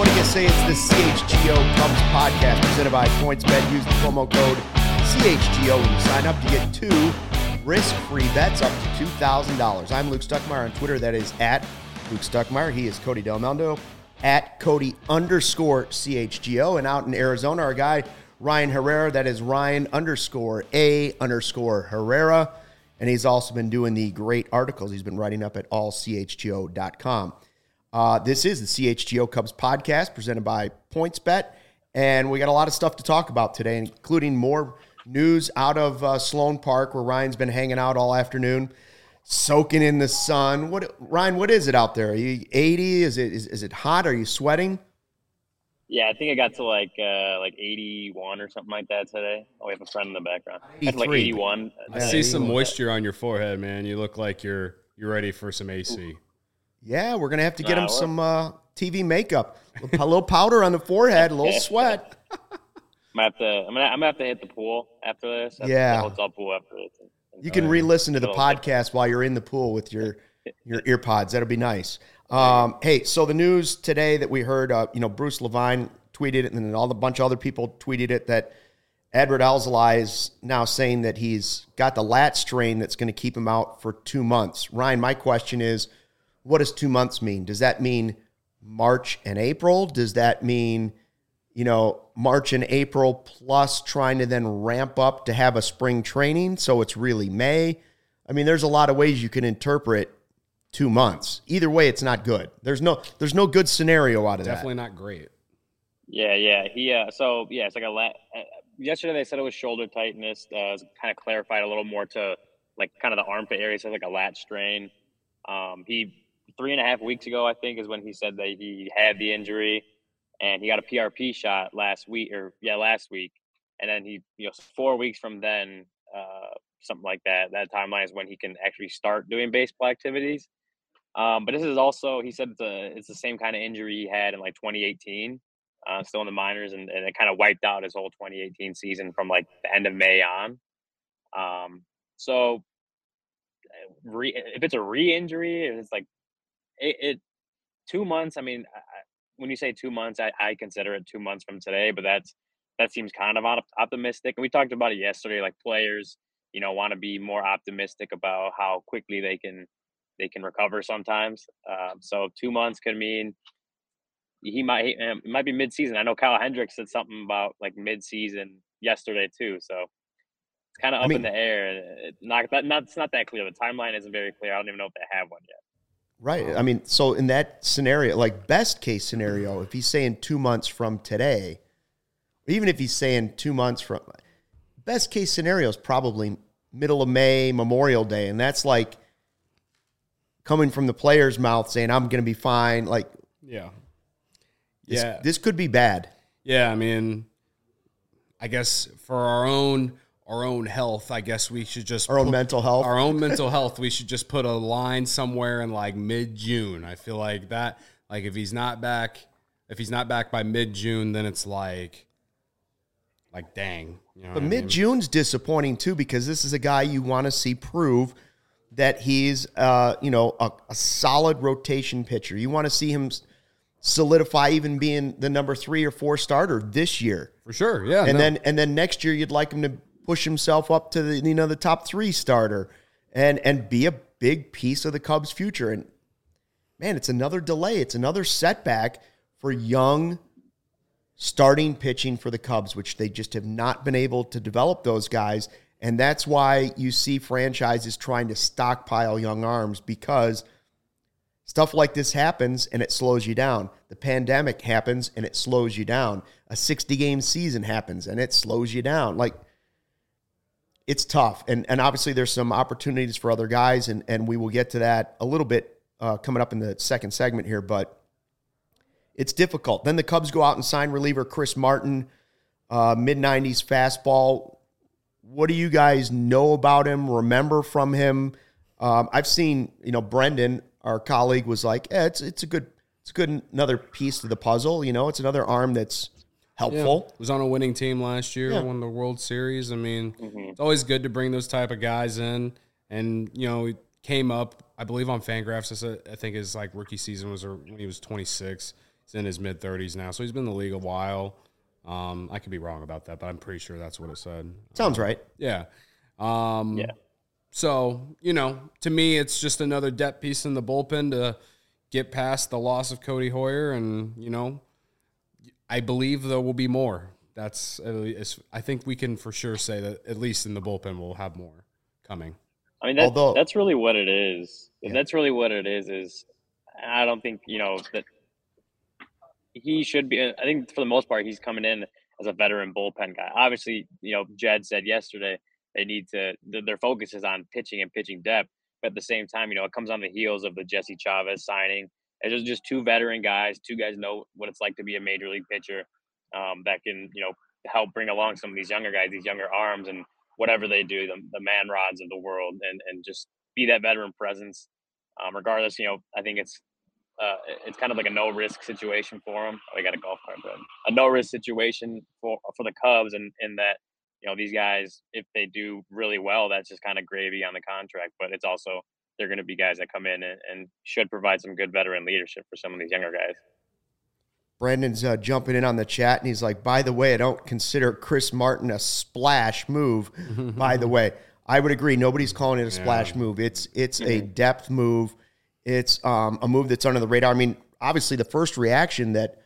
morning, you say it's the CHGO Cubs podcast presented by PointsBet. Use the promo code CHGO when you sign up to get 2 risk-free bets up to $2,000. I'm Luke Stuckmeyer on Twitter. That is at Luke Stuckmeyer. He is Cody Del Mundo at Cody_CHGO. And out in Arizona, our guy Ryan Herrera. That is Ryan_A_Herrera. And he's also been doing the great articles he's been writing up at allchgo.com. This is the CHGO Cubs podcast presented by PointsBet, and we got a lot of stuff to talk about today, including more news out of Sloan Park, where Ryan's been hanging out all afternoon, soaking in the sun. Ryan, what is it out there? Are you 80? Is it hot? Are you sweating? Yeah, I think I got to like 81 or something like that today. Oh, we have a friend in the background. That's like 81. I see some moisture on your forehead, man. You look like you're ready for some AC. Yeah, we're going to have to get him some TV makeup. A little powder on the forehead, a little sweat. I'm gonna have to hit the pool after this. Yeah. The hotel pool after this. You can re-listen to the podcast while you're in the pool with your ear pods. That'll be nice. Hey, so the news today that we heard, Bruce Levine tweeted it, and then a bunch of other people tweeted it, that Edward Alzolay is now saying that he's got the lat strain that's going to keep him out for 2 months. Ryan, my question is, what does 2 months mean? Does that mean March and April? Does that mean, March and April plus trying to then ramp up to have a spring training so it's really May? I mean, there's a lot of ways you can interpret 2 months. Either way, it's not good. There's no good scenario out of that. Definitely not great. Yeah. It's like a lat. Yesterday they said it was shoulder tightness. Kind of clarified a little more to like kind of the armpit area. So like a lat strain. He 3.5 weeks ago, I think, is when he said that he had the injury, and he got a PRP shot last week. And then he, 4 weeks from then, something like that. That timeline is when he can actually start doing baseball activities. But this is also, he said it's the same kind of injury he had in like 2018, still in the minors, and it kind of wiped out his whole 2018 season from like the end of May on. If it's a re-injury, it's like it 2 months. I mean, when you say 2 months, I consider it 2 months from today, but that seems kind of optimistic. And we talked about it yesterday. Like players, want to be more optimistic about how quickly they can recover sometimes. So 2 months could mean it might be mid-season. I know Kyle Hendricks said something about like mid-season yesterday too. So it's kind of up in the air. It's not that clear. The timeline isn't very clear. I don't even know if they have one yet. Right. I mean, so in that scenario, like best case scenario, if he's saying 2 months from today, even if he's saying 2 months from, best case scenario is probably middle of May, Memorial Day. And that's like coming from the player's mouth saying, I'm going to be fine. Like, this could be bad. Yeah. I mean, I guess for our own health, I guess we should just our own mental health. We should just put a line somewhere in like mid-June. I feel like that. Like if he's not back by mid-June, then it's like dang. But mid-June's disappointing too, because this is a guy you want to see prove that he's a solid rotation pitcher. You want to see him solidify even being the number 3 or 4 starter this year. For sure, yeah. And then next year you'd like him to push himself up to the top 3 starter and be a big piece of the Cubs' future. And man, it's another delay. It's another setback for young starting pitching for the Cubs, which they just have not been able to develop those guys. And that's why you see franchises trying to stockpile young arms, because stuff like this happens and it slows you down. The pandemic happens and it slows you down. A 60-game season happens and it slows you down. Like, it's tough. And obviously there's some opportunities for other guys, and we will get to that a little bit coming up in the second segment here, but it's difficult. Then the Cubs go out and sign reliever Chris Martin, mid-90s fastball. What do you guys know about him, remember from him? I've seen, Brendan, our colleague, was like, it's a good another piece to the puzzle. It's another arm that's helpful. Yeah. Was on a winning team last year, won the World Series. I mean, It's always good to bring those type of guys in. And, he came up, I believe, on Fangraphs. I think his rookie season was when he was 26. He's in his mid-30s now, so he's been in the league a while. I could be wrong about that, but I'm pretty sure that's what it said. Sounds right. Yeah. Yeah. So, to me, it's just another depth piece in the bullpen to get past the loss of Cody Hoyer. And, I believe there will be more. I think we can for sure say that at least in the bullpen we'll have more coming. I mean, that's really what it is. Yeah. That's really what it is I don't think, that he should be. I think for the most part, he's coming in as a veteran bullpen guy. Obviously, Jed said yesterday they need to. Their focus is on pitching and pitching depth. But at the same time, it comes on the heels of the Jesse Chavez signing. It's just two veteran guys. Two guys know what it's like to be a major league pitcher that can, help bring along some of these younger guys, these younger arms, and whatever they do, the man rods of the world, and just be that veteran presence. Regardless, I think it's kind of like a no-risk situation for them. Oh, I got a golf cart, but a no-risk situation for the Cubs, and in that, these guys, if they do really well, that's just kind of gravy on the contract. But it's also they're going to be guys that come in and should provide some good veteran leadership for some of these younger guys. Brandon's jumping in on the chat, and he's like, by the way, I don't consider Chris Martin a splash move. By the way, I would agree. Nobody's calling it a splash move. It's a depth move. It's a move that's under the radar. I mean, obviously, the first reaction that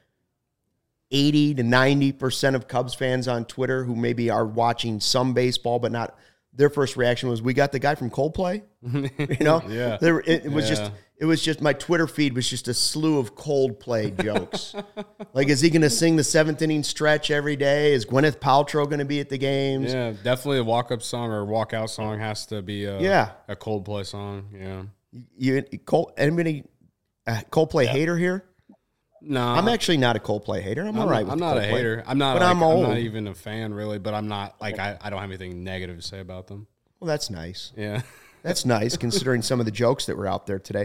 80 to 90% of Cubs fans on Twitter who maybe are watching some baseball but not, their first reaction was, we got the guy from Coldplay. Yeah. It was just my Twitter feed was just a slew of Coldplay jokes. Like, is he going to sing the seventh inning stretch every day? Is Gwyneth Paltrow going to be at the games? Yeah, definitely a walk-up song or walk-out song has to be a Coldplay song. Yeah. Anybody Coldplay hater here? No, I'm actually not a Coldplay hater. I'm all right with I'm not Coldplay. a hater. I'm not. But Like, I'm old. I'm not even a fan, really. But I'm not like I don't have anything negative to say about them. Well, that's nice. Yeah, that's nice considering some of the jokes that were out there today.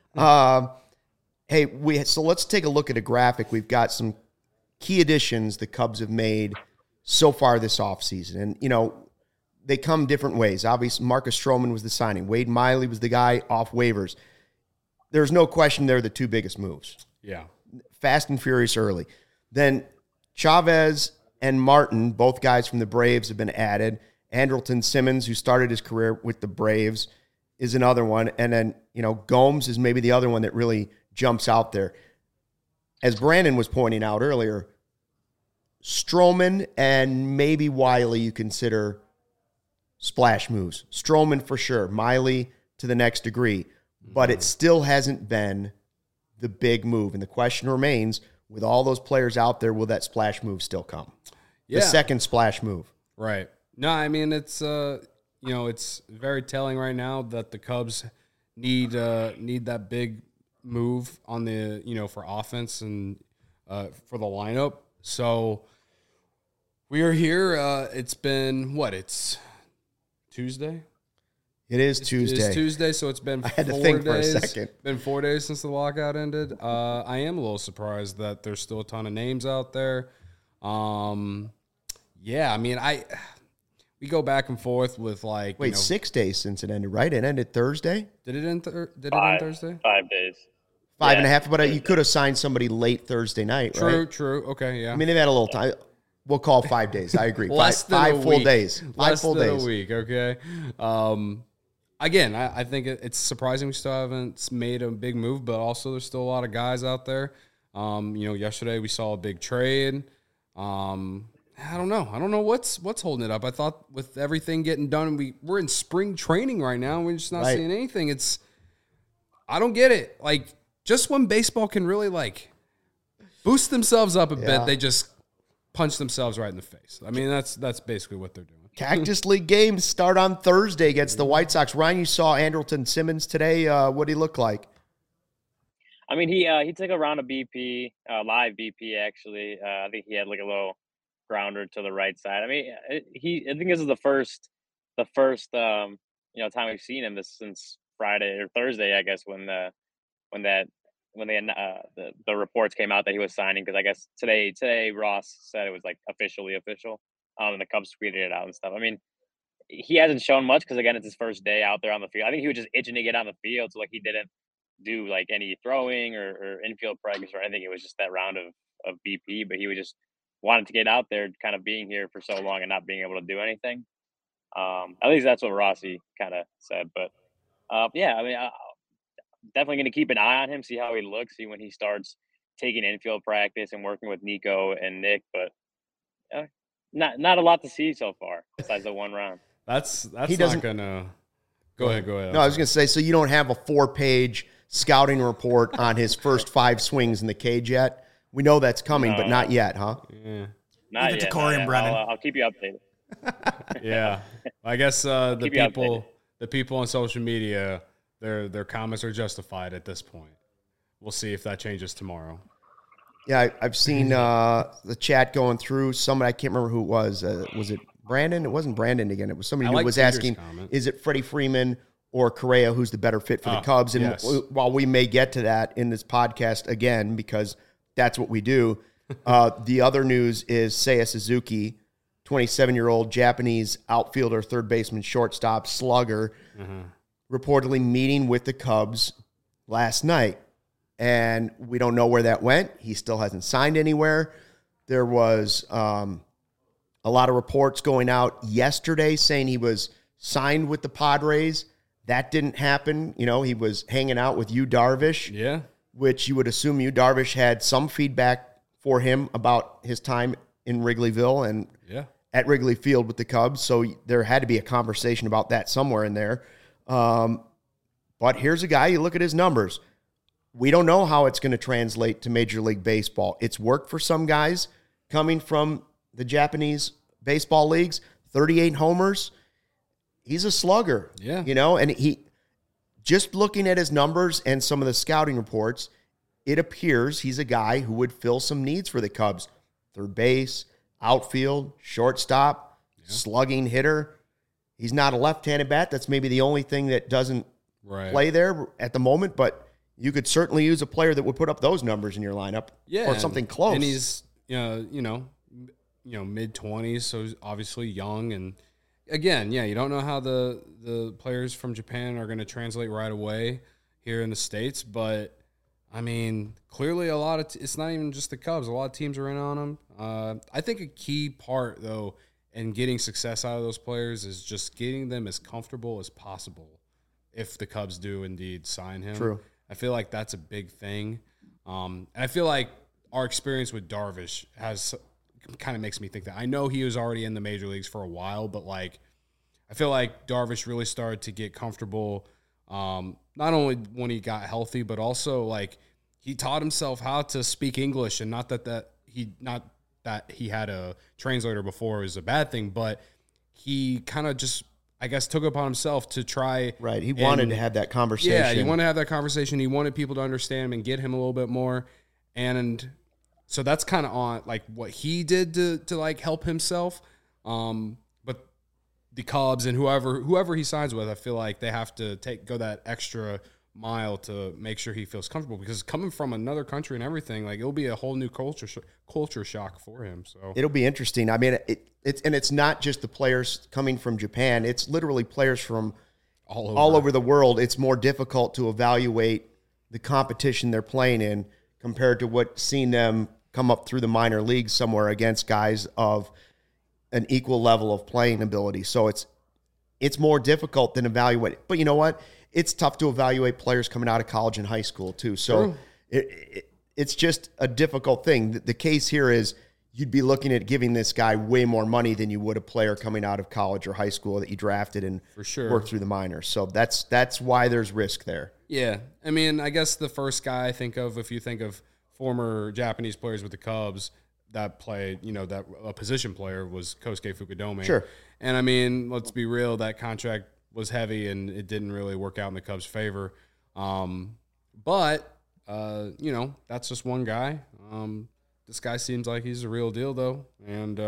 So let's take a look at a graphic. We've got some key additions the Cubs have made so far this offseason. And, they come different ways. Obviously, Marcus Stroman was the signing. Wade Miley was the guy off waivers. There's no question they're the two biggest moves. Yeah. Fast and furious early. Then Chavez and Martin, both guys from the Braves, have been added. Andrelton Simmons, who started his career with the Braves, is another one. And then, Gomes is maybe the other one that really jumps out there. As Brandon was pointing out earlier, Stroman and maybe Wiley you consider splash moves. Stroman for sure. Miley to the next degree. But it still hasn't been the big move. And the question remains, with all those players out there, will that splash move still come? Yeah. The second splash move. Right. No, I mean, it's it's very telling right now that the Cubs need that big move on the, for offense and for the lineup. So we are here. It's been it's Tuesday. It is Tuesday. It's Tuesday, so it's been 4 days. I had to think for a second. Been 4 days since the lockout ended. I am a little surprised that there's still a ton of names out there. Yeah, I mean, we go back and forth with 6 days since it ended, right? It ended Thursday? Did it end Thursday? 5 days. Five and a half, but you could have signed somebody late Thursday night, right? True. Okay, yeah. I mean, they've had a little time. We'll call 5 days. I agree. Less than five a full week. days. Less full than days. a week, okay? Again, I think it's surprising we still haven't made a big move, but also there's still a lot of guys out there. Yesterday we saw a big trade. I don't know what's holding it up. I thought with everything getting done, we're in spring training right now, and we're just not seeing anything. I don't get it. Like, just when baseball can really boost themselves up a bit, they just punch themselves right in the face. I mean, that's basically what they're doing. Cactus League games start on Thursday against the White Sox. Ryan, you saw Andrelton Simmons today. What did he look like? I mean, he took a round of BP, live BP actually. I think he had a little grounder to the right side. I mean, I think this is the first time we've seen him since Friday or Thursday, I guess, when the reports came out that he was signing, because I guess today Ross said it was officially official. And the Cubs tweeted it out and stuff. I mean, he hasn't shown much because, again, it's his first day out there on the field. I think he was just itching to get on the field, so he didn't do like any throwing or infield practice or anything. It was just that round of BP, but he was just wanted to get out there, kind of being here for so long and not being able to do anything. At least that's what Rossi kind of said. But yeah, I mean, definitely going to keep an eye on him, see how he looks, see when he starts taking infield practice and working with Nico and Nick. But not a lot to see so far besides the one round. That's not gonna. Go ahead. No, I was gonna say, so you don't have a 4-page scouting report on his first 5 swings in the cage yet. We know that's coming, but not yet, huh? Yeah. Not yet. Corey and Brennan. I'll keep you updated. Yeah, I guess the people on social media, their comments are justified at this point. We'll see if that changes tomorrow. Yeah, I've seen the chat going through. Somebody, I can't remember who it was. Was it Brandon? It wasn't Brandon again. It was somebody who was asking, comment. Is it Freddie Freeman or Correa who's the better fit for the Cubs? And yes. while we may get to that in this podcast again, because that's what we do, the other news is Seiya Suzuki, 27-year-old Japanese outfielder, third baseman, shortstop, slugger, reportedly meeting with the Cubs last night. And we don't know where that went. He still hasn't signed anywhere. There was a lot of reports going out yesterday saying he was signed with the Padres. That didn't happen. You know, he was hanging out with Yu Darvish, Yeah. which you would assume Yu Darvish had some feedback for him about his time in Wrigleyville and at Wrigley Field with the Cubs. So there had to be a conversation about that somewhere in there. But here's a guy, you look at his numbers. We don't know how it's going to translate to Major League Baseball. It's worked for some guys coming from the Japanese baseball leagues, 38 homers. He's a slugger, you know, and he just looking at his numbers and some of the scouting reports, it appears he's a guy who would fill some needs for the Cubs. Third base, outfield, shortstop, slugging hitter. He's not a left-handed bat. That's maybe the only thing that doesn't play there at the moment, but you could certainly use a player that would put up those numbers in your lineup, or something close. And he's mid-20s, so he's obviously young. And again, you don't know how the players from Japan are going to translate right away here in the States. But I mean, clearly a lot of it's not even just the Cubs. A lot of teams are in on him. I think a key part though in getting success out of those players is just getting them as comfortable as possible. If the Cubs do indeed sign him, True. I feel like that's a big thing. And I feel like our experience with Darvish kind of makes me think that. I know he was already in the major leagues for a while, but like I feel like Darvish really started to get comfortable, not only when he got healthy, but also like he taught himself how to speak English, and not that he had a translator before is a bad thing, but he kind of just, I guess, took upon himself to try. Right. He wanted to have that conversation. Yeah, he wanted to have that conversation. He wanted people to understand him and get him a little bit more. And so that's kind of on like what he did to like help himself. But the Cubs and whoever he signs with, I feel like they have to go that extra mile to make sure he feels comfortable, because coming from another country and everything, like it'll be a whole new culture shock for him. So it'll be interesting. I mean, it's not just the players coming from Japan. It's literally players from all over the world. It's more difficult to evaluate the competition they're playing in compared to seeing them come up through the minor leagues somewhere against guys of an equal level of playing ability. So it's more difficult than evaluate. But you know what? It's tough to evaluate players coming out of college and high school too. So it's just a difficult thing. The case here is you'd be looking at giving this guy way more money than you would a player coming out of college or high school that you drafted and worked through the minors. So that's why there's risk there. Yeah. I mean, I guess the first guy I think of, if you think of former Japanese players with the Cubs that played, that a position player, was Kosuke Fukudome. Sure. And I mean, let's be real, that contract was heavy and it didn't really work out in the Cubs' favor. But that's just one guy. This guy seems like he's a real deal, though. And,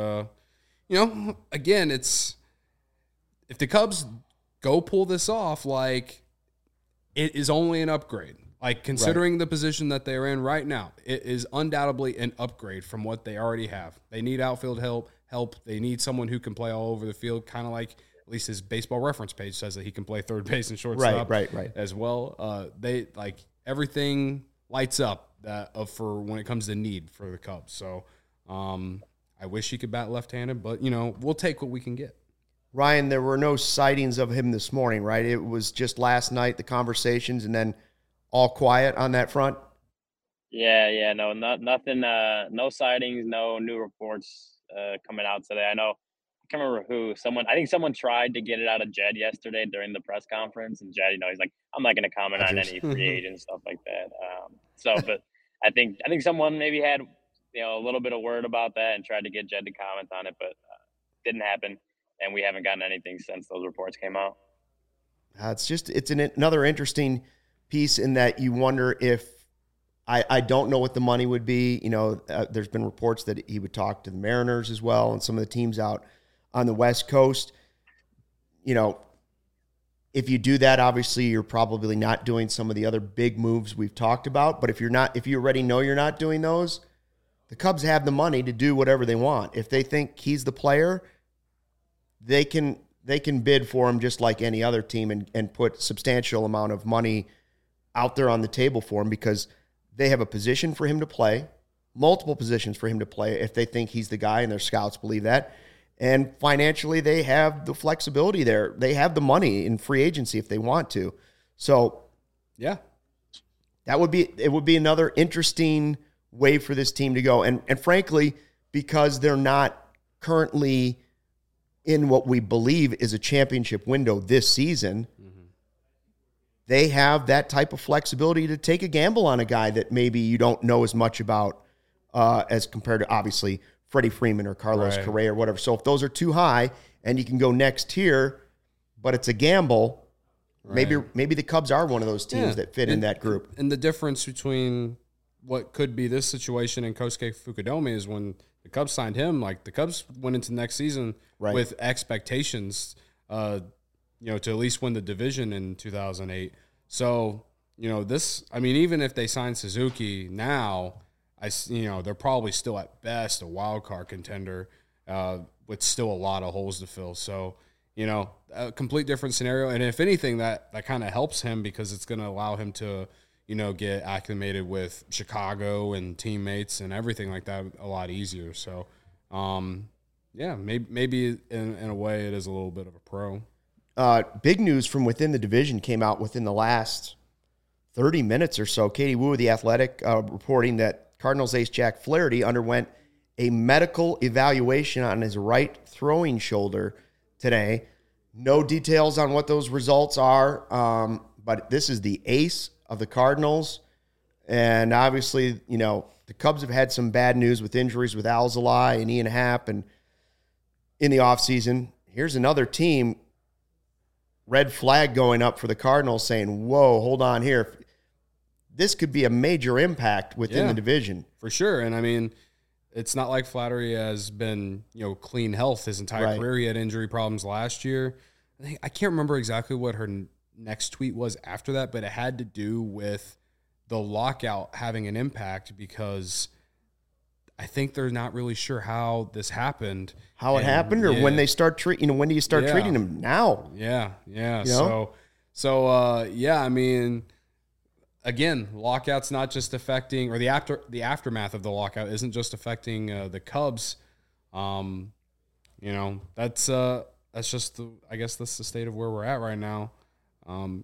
again, if the Cubs go pull this off, like, it is only an upgrade. Like, considering the position that they're in right now, it is undoubtedly an upgrade from what they already have. They need outfield help. They need someone who can play all over the field, kind of like at least his Baseball Reference page says that he can play third base and shortstop right. as well. everything lights up for when it comes to need for the Cubs. So I wish he could bat left-handed, but, we'll take what we can get. Ryan, there were no sightings of him this morning, right? It was just last night, the conversations, and then all quiet on that front? Yeah, no, nothing, no sightings, no new reports coming out today. I can't remember who. I think someone tried to get it out of Jed yesterday during the press conference, and Jed, he's like, I'm not going to comment on any free agent stuff like that. But I think someone maybe had a little bit of word about that and tried to get Jed to comment on it, but didn't happen, and we haven't gotten anything since those reports came out. It's another interesting piece in that you wonder if I don't know what the money would be. There's been reports that he would talk to the Mariners as well and some of the teams out on the West Coast. If you do that, obviously you're probably not doing some of the other big moves we've talked about. But if you already know you're not doing those, the Cubs have the money to do whatever they want. If they think he's the player, they can bid for him just like any other team and put substantial amount of money out there on the table for him because they have a position for him to play, multiple positions for him to play if they think he's the guy and their scouts believe that. And financially, they have the flexibility there. They have the money in free agency if they want to. So, yeah, it would be another interesting way for this team to go. And frankly, because they're not currently in what we believe is a championship window this season, they have that type of flexibility to take a gamble on a guy that maybe you don't know as much about as compared to, obviously, Freddie Freeman or Carlos Correa or whatever. So if those are too high and you can go next tier, but it's a gamble, maybe the Cubs are one of those teams that fit in that group. And the difference between what could be this situation and Kosuke Fukudome is when the Cubs signed him, like the Cubs went into next season with expectations to at least win the division in 2008. So, even if they sign Suzuki now, they're probably still at best a wild card contender with still a lot of holes to fill. So, a complete different scenario. And if anything, that kind of helps him because it's going to allow him to, get acclimated with Chicago and teammates and everything like that a lot easier. So, maybe in a way it is a little bit of a pro. Big news from within the division came out within the last 30 minutes or so. Katie Woo of The Athletic reporting that Cardinals ace Jack Flaherty underwent a medical evaluation on his right throwing shoulder today. No details on what those results are, but this is the ace of the Cardinals. And obviously, the Cubs have had some bad news with injuries with Alzolay and Ian Happ and in the offseason. Here's another team, red flag going up for the Cardinals saying, whoa, hold on here. This could be a major impact within the division. For sure. And it's not like Flaherty has been, clean health his entire career. He had injury problems last year. I can't remember exactly what her next tweet was after that, but it had to do with the lockout having an impact because I think they're not really sure how this happened. How it happened or when they start treating, when do you start treating them now? Yeah. Again, lockout's not just affecting, or the aftermath of the lockout isn't just affecting the Cubs. That's just I guess that's the state of where we're at right now. I'm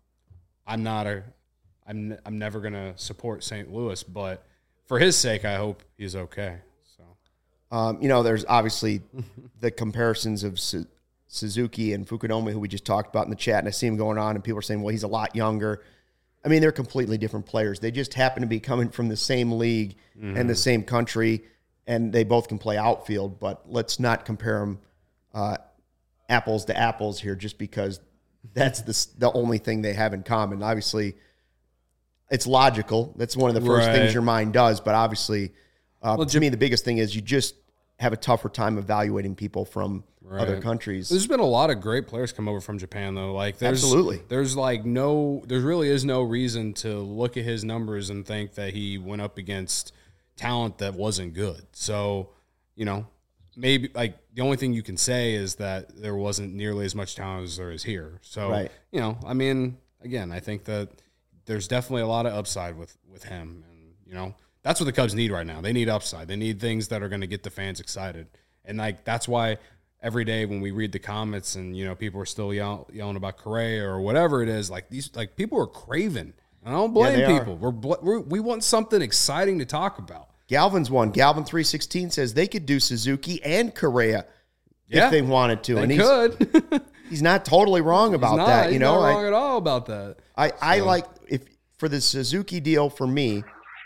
never gonna support St. Louis, but for his sake, I hope he's okay. So, there's obviously the comparisons of Suzuki and Fukudome, who we just talked about in the chat, and I see him going on, and people are saying, well, he's a lot younger. They're completely different players. They just happen to be coming from the same league and the same country, and they both can play outfield. But let's not compare them apples to apples here just because that's the only thing they have in common. Obviously, it's logical. That's one of the first things your mind does. But obviously, to me, the biggest thing is you just have a tougher time evaluating people from other countries. There's been a lot of great players come over from Japan, though. Absolutely. There really is no reason to look at his numbers and think that he went up against talent that wasn't good. So, maybe the only thing you can say is that there wasn't nearly as much talent as there is here. So, again, I think that there's definitely a lot of upside with him. And, you know, that's what the Cubs need right now. They need upside. They need things that are going to get the fans excited. And, like, that's why every day when we read the comments and, you know, people are still yelling about Correa or whatever it is, like, these, like, people are craving. I don't blame people. We want something exciting to talk about. Galvin's one. Galvin 316 says they could do Suzuki and Correa if they wanted to. They could. He's not totally wrong about that. He's not wrong at all about that. I like for the Suzuki deal for me,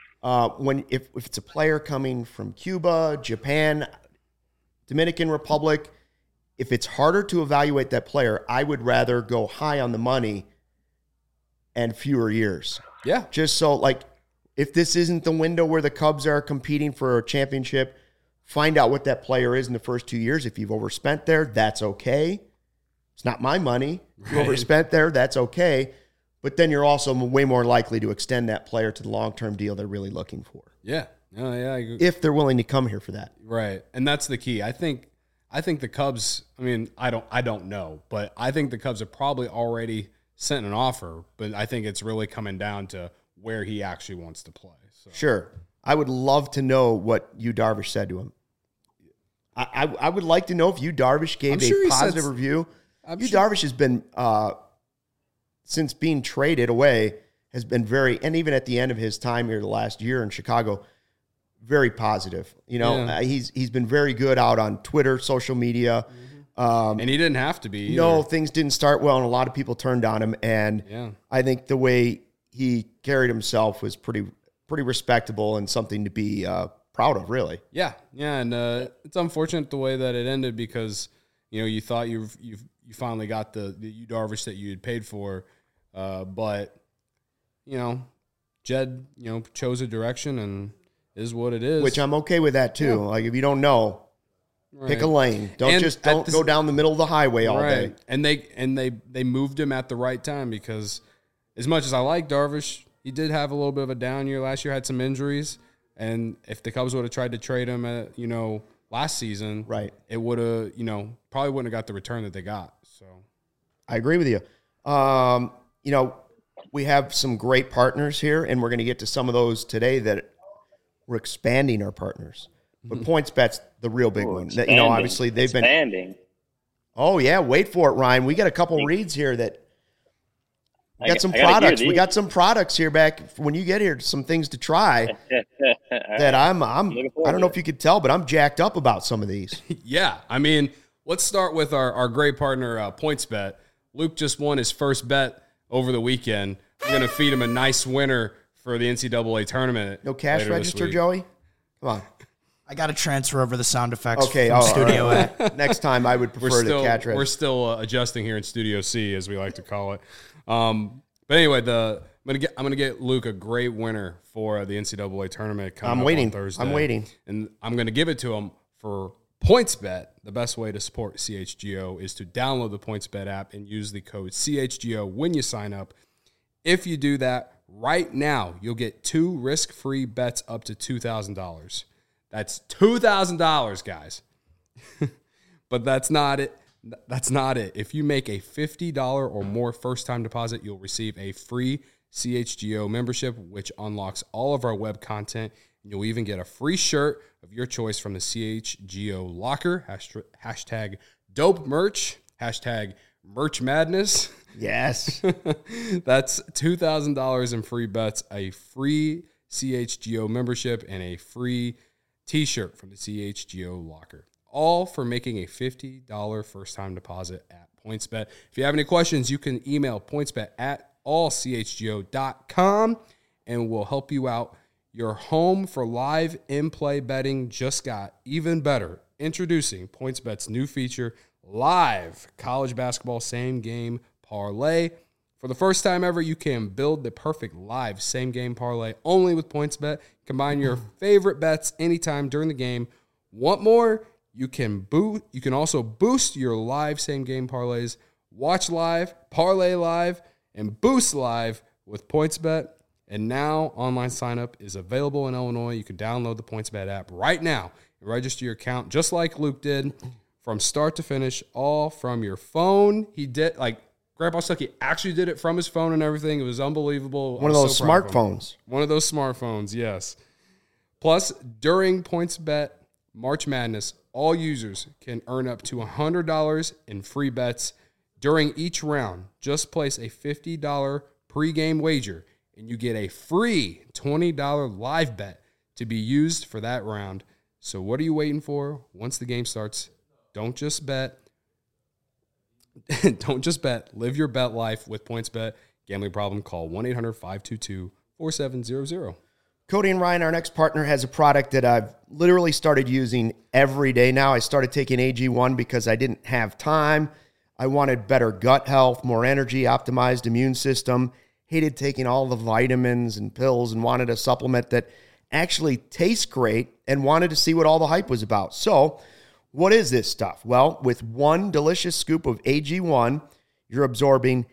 if it's a player coming from Cuba, Japan, Dominican Republic, if it's harder to evaluate that player, I would rather go high on the money and fewer years. Yeah. Just so, like, if this isn't the window where the Cubs are competing for a championship, find out what that player is in the first 2 years. If you've overspent there, that's okay. It's not my money. If you overspent there, that's okay. But then you're also way more likely to extend that player to the long-term deal they're really looking for. Yeah. If they're willing to come here for that. Right. And that's the key. I think the Cubs, I mean, I don't know, but I think the Cubs have probably already sent an offer, but I think it's really coming down to where he actually wants to play. So. Sure. I would love to know what Yu Darvish said to him. I would like to know if Yu Darvish gave a positive review. Yu Darvish has been, since being traded away, has been and even at the end of his time here the last year in Chicago, very positive. You know, he's been very good out on Twitter, social media. And he didn't have to be either. No, things didn't start well, and a lot of people turned on him. And I think the way he carried himself was pretty respectable and something to be proud of, really. Yeah, and it's unfortunate the way that it ended because, you know, you thought you finally got the Yu Darvish that you had paid for, but, you know, Jed, you know, chose a direction and is what it is. Which I'm okay with that too. Yeah. Like, if you don't know, pick a lane. Don't go down the middle of the highway all day. And they moved him at the right time because as much as I like Darvish, he did have a little bit of a down year last year, had some injuries. And if the Cubs would have tried to trade him at, you know, last season, it would have, you know, probably wouldn't have got the return that they got. So I agree with you. You know, we have some great partners here, and we're going to get to some of those today that we're expanding our partners. But PointsBet's the real big one. That, you know, obviously they've been expanding. Oh yeah, wait for it, Ryan. We got a couple reads here that we got some products. We got some products here back when you get here. Some things to try that I don't know if you could tell, but I'm jacked up about some of these. Yeah, I mean, let's start with our great partner, PointsBet. Luke just won his first bet over the weekend. We're going to feed him a nice winner for the NCAA tournament. No cash register, Joey? Come on. I got to transfer over the sound effects from Studio A. Next time I would prefer the cash register. We're still adjusting here in Studio C, as we like to call it. But anyway, I'm gonna get Luke a great winner for the NCAA tournament coming up on Thursday. I'm waiting. And I'm going to give it to him for PointsBet. The best way to support CHGO is to download the PointsBet app and use the code CHGO when you sign up. If you do that right now, you'll get 2 risk-free bets up to $2,000. That's $2,000, guys. But that's not it. That's not it. If you make a $50 or more first-time deposit, you'll receive a free CHGO membership, which unlocks all of our web content. And you'll even get a free shirt of your choice from the CHGO locker. Hashtag dope merch. Hashtag merch madness. Yes. That's $2,000 in free bets, a free CHGO membership, and a free t-shirt from the CHGO locker. All for making a $50 first-time deposit at PointsBet. If you have any questions, you can email pointsbet@allchgo.com, and we'll help you out. Your home for live in-play betting just got even better. Introducing PointsBet's new feature, Live College Basketball Same-Game Parlay. For the first time ever, you can build the perfect live same-game parlay only with PointsBet. Combine your favorite bets anytime during the game. Want more? You can also boost your live same-game parlays. Watch live, parlay live, and boost live with PointsBet. And now online sign-up is available in Illinois. You can download the PointsBet app right now and register your account just like Luke did from start to finish, all from your phone. He did, like, Grandpa Stucky actually did it from his phone and everything. It was unbelievable. One of those smartphones. One of those smartphones, yes. Plus, during PointsBet March Madness, all users can earn up to $100 in free bets during each round. Just place a $50 pregame wager, and you get a free $20 live bet to be used for that round. So what are you waiting for? Once the game starts, don't just bet. Don't just bet. Live your bet life with PointsBet. Gambling problem? Call 1-800-522-4700. Cody and Ryan, our next partner, has a product that I've literally started using every day now. I started taking AG1 because I didn't have time. I wanted better gut health, more energy, optimized immune system. Hated taking all the vitamins and pills and wanted a supplement that actually tastes great and wanted to see what all the hype was about. So, what is this stuff? Well, with one delicious scoop of AG1, you're absorbing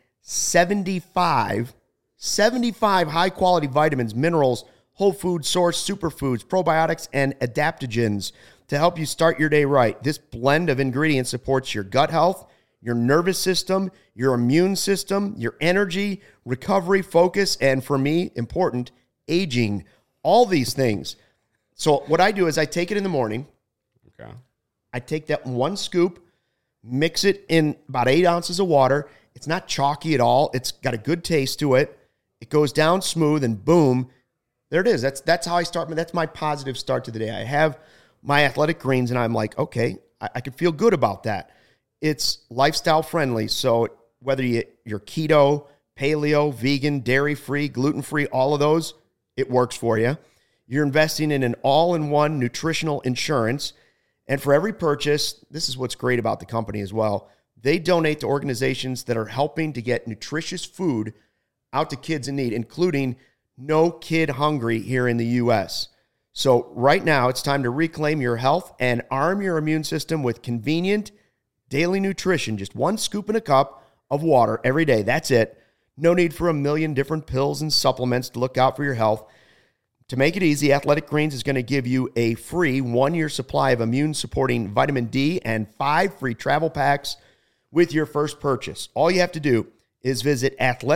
75 high-quality vitamins, minerals, whole food source, superfoods, probiotics, and adaptogens to help you start your day right. This blend of ingredients supports your gut health, your nervous system, your immune system, your energy, recovery, focus, and for me, important, aging. All these things. So what I do is I take it in the morning. Okay. I take that one scoop, mix it in about 8 ounces of water. It's not chalky at all. It's got a good taste to it. It goes down smooth, and boom, there it is. That's how I start. That's my positive start to the day. I have my Athletic Greens, and I'm like, okay, I can feel good about that. It's lifestyle friendly. So whether you're keto, paleo, vegan, dairy-free, gluten-free, all of those, it works for you. You're investing in an all-in-one nutritional insurance. And for every purchase, this is what's great about the company as well, they donate to organizations that are helping to get nutritious food out to kids in need, including No Kid Hungry here in the U.S. So right now, it's time to reclaim your health and arm your immune system with convenient daily nutrition. Just one scoop in a cup of water every day. That's it. No need for a million different pills and supplements to look out for your health. To make it easy, Athletic Greens is going to give you a free 1-year supply of immune-supporting vitamin D and 5 free travel packs with your first purchase. All you have to do is visit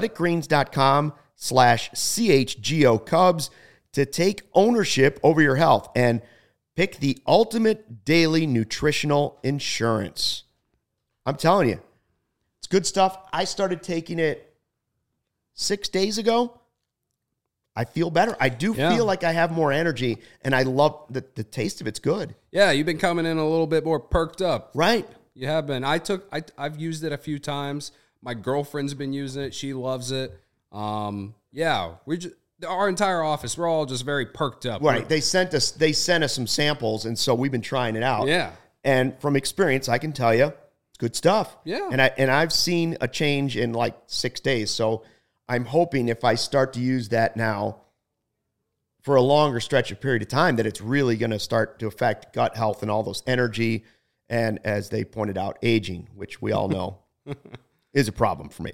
athleticgreens.com/CHGO Cubs to take ownership over your health and pick the ultimate daily nutritional insurance. I'm telling you, it's good stuff. I started taking it 6 days ago. I feel better. I do feel like I have more energy, and I love the taste of it's good. Yeah, you've been coming in a little bit more perked up. Right. You have been. I've used it a few times. My girlfriend's been using it. She loves it. Our entire office, we're all just very perked up. Right. They sent us some samples, and so we've been trying it out. Yeah. And from experience, I can tell you, it's good stuff. Yeah. And I've seen a change in like 6 days. So I'm hoping if I start to use that now for a longer stretch of period of time, that it's really going to start to affect gut health and all those energy and, as they pointed out, aging, which we all know is a problem for me.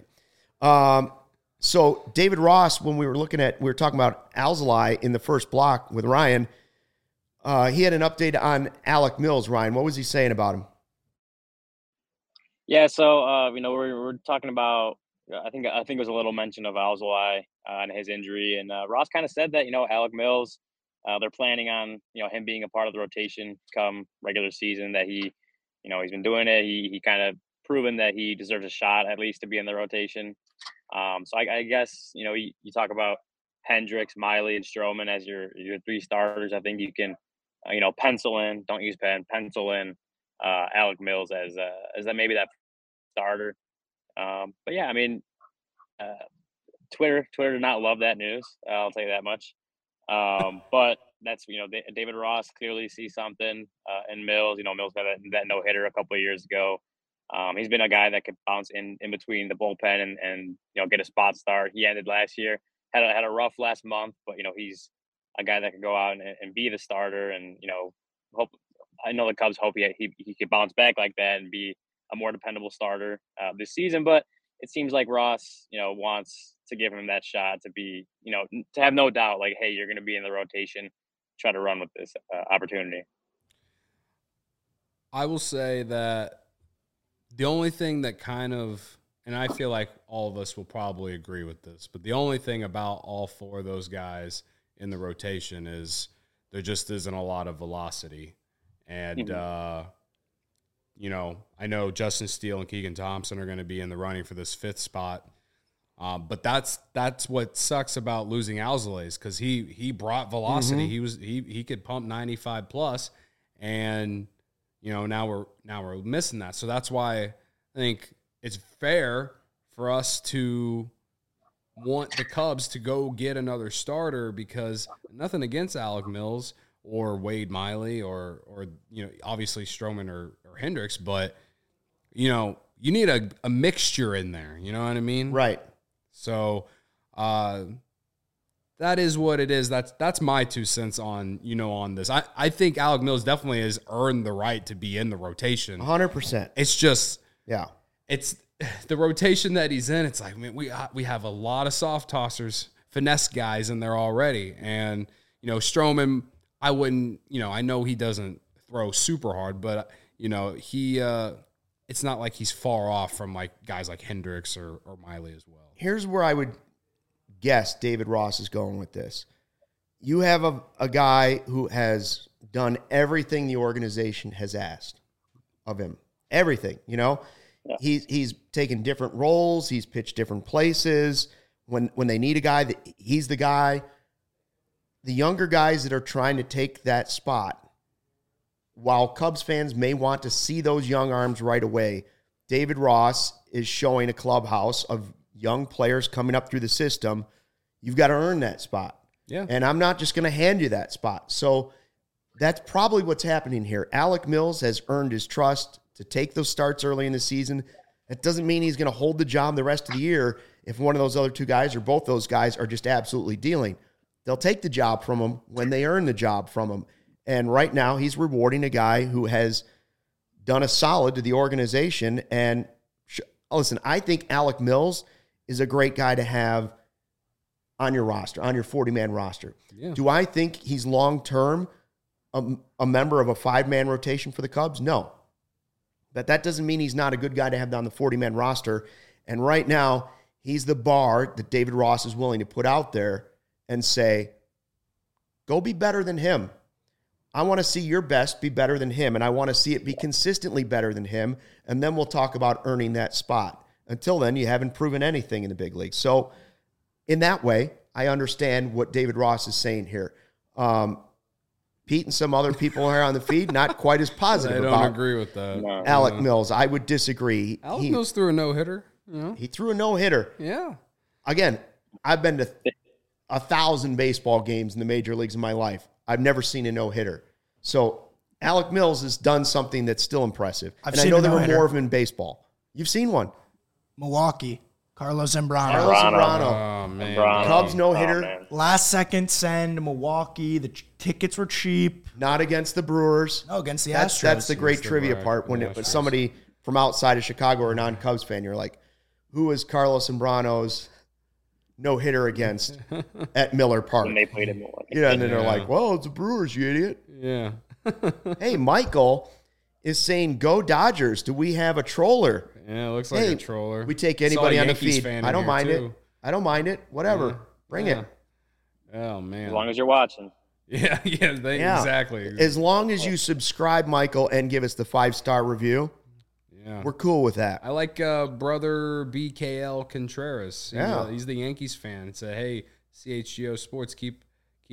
So David Ross, when we were talking about Alzolay in the first block with Ryan, he had an update on Alec Mills. Ryan, what was he saying about him? Yeah, so we're talking about. I think it was a little mention of Alzolay and his injury, and Ross kind of said that Alec Mills, they're planning on him being a part of the rotation come regular season. That he's been doing it. He kind of proven that he deserves a shot at least to be in the rotation. So I guess you talk about Hendricks, Miley, and Stroman as your 3 starters. I think you can pencil in. Don't use pen. Pencil in Alec Mills as that maybe that starter. But yeah, I mean, Twitter did not love that news. I'll tell you that much. But that's David Ross clearly sees something in Mills. Mills got that no hitter a couple of years ago. He's been a guy that could bounce in between the bullpen and get a spot start. He ended last year, had a rough last month, but he's a guy that could go out and be the starter. And hope I know the Cubs hope he could bounce back like that and be a more dependable starter this season. But it seems like Ross, wants to give him that shot to be, to have no doubt, like, hey, you're going to be in the rotation, try to run with this opportunity. I will say that the only thing that kind of, and I feel like all of us will probably agree with this, but the only thing about all four of those guys in the rotation is there just isn't a lot of velocity. And, you know, I know Justin Steele and Keegan Thompson are going to be in the running for this 5th spot. But that's what sucks about losing Alzolay, because he brought velocity. He could pump 95 plus, and you know now we're missing that. So that's why I think it's fair for us to want the Cubs to go get another starter, because nothing against Alec Mills or Wade Miley or you know, obviously Stroman or Hendricks, but you know, you need a mixture in there. You know what I mean? Right. So that is what it is. That's my 2 cents on, you know, on this. I think Alec Mills definitely has earned the right to be in the rotation. 100%. It's just, Yeah. it's the rotation that he's in. It's like, man, we have a lot of soft tossers, finesse guys in there already. And, you know, Stroman, I wouldn't, you know, I know he doesn't throw super hard, but, you know, it's not like he's far off from like guys like Hendricks or Miley as well. Here's where I would guess David Ross is going with this. You have a guy who has done everything the organization has asked of him. Everything, you know? Yeah. He's taken different roles. He's pitched different places. When they need a guy, he's the guy. The younger guys that are trying to take that spot, while Cubs fans may want to see those young arms right away, David Ross is showing a clubhouse of young players coming up through the system. You've got to earn that spot. Yeah. And I'm not just going to hand you that spot. So that's probably what's happening here. Alec Mills has earned his trust to take those starts early in the season. That doesn't mean he's going to hold the job the rest of the year if one of those other 2 guys or both those guys are just absolutely dealing. They'll take the job from him when they earn the job from him. And right now he's rewarding a guy who has done a solid to the organization. And listen, I think Alec Mills is a great guy to have on your roster, on your 40-man roster. Yeah. Do I think he's long-term a member of a 5-man rotation for the Cubs? No. But that doesn't mean he's not a good guy to have on the 40-man roster. And right now, he's the bar that David Ross is willing to put out there and say, go be better than him. I want to see your best be better than him, and I want to see it be consistently better than him, and then we'll talk about earning that spot. Until then, you haven't proven anything in the big league. So in that way, I understand what David Ross is saying here. Pete and some other people here on the feed, not quite as positive I don't about agree with that. No. Alec Mills. I would disagree. Alec Mills threw a no-hitter. You know? He threw a no-hitter. Yeah. Again, I've been to 1,000 baseball games in the major leagues in my life. I've never seen a no-hitter. So Alec Mills has done something that's still impressive. I've and I seen know a there were no-hitter. more of them in baseball. You've seen one. Milwaukee, Carlos Zambrano. Carlos Zambrano. Oh, man. Zambrano. Cubs no-hitter. man. Last second send, Milwaukee. The tickets were cheap. Not against the Brewers. No, against the Astros. That's the great Against the trivia Black- part. When the it was Astros. somebody from outside of Chicago or a non-Cubs fan, you're like, who is Carlos Zambrano's no-hitter against at Miller Park? When they played in Milwaukee. Yeah, and then they're Yeah. like, well, it's the Brewers, you idiot. Yeah. Hey, Michael is saying, go Dodgers. Do we have a troller? Yeah, it looks like Hey, a troller. we take Saw a anybody on the Yankees feed. fan I in don't here, mind it. too. I don't mind it. Whatever. Yeah. Bring Yeah. it. Oh, man. As long as you're watching. Yeah, exactly. As long as you subscribe, Michael, and give us the 5-star review, Yeah. we're cool with that. I like brother BKL Contreras. He's the Yankees fan. It said, hey, CHGO Sports, keep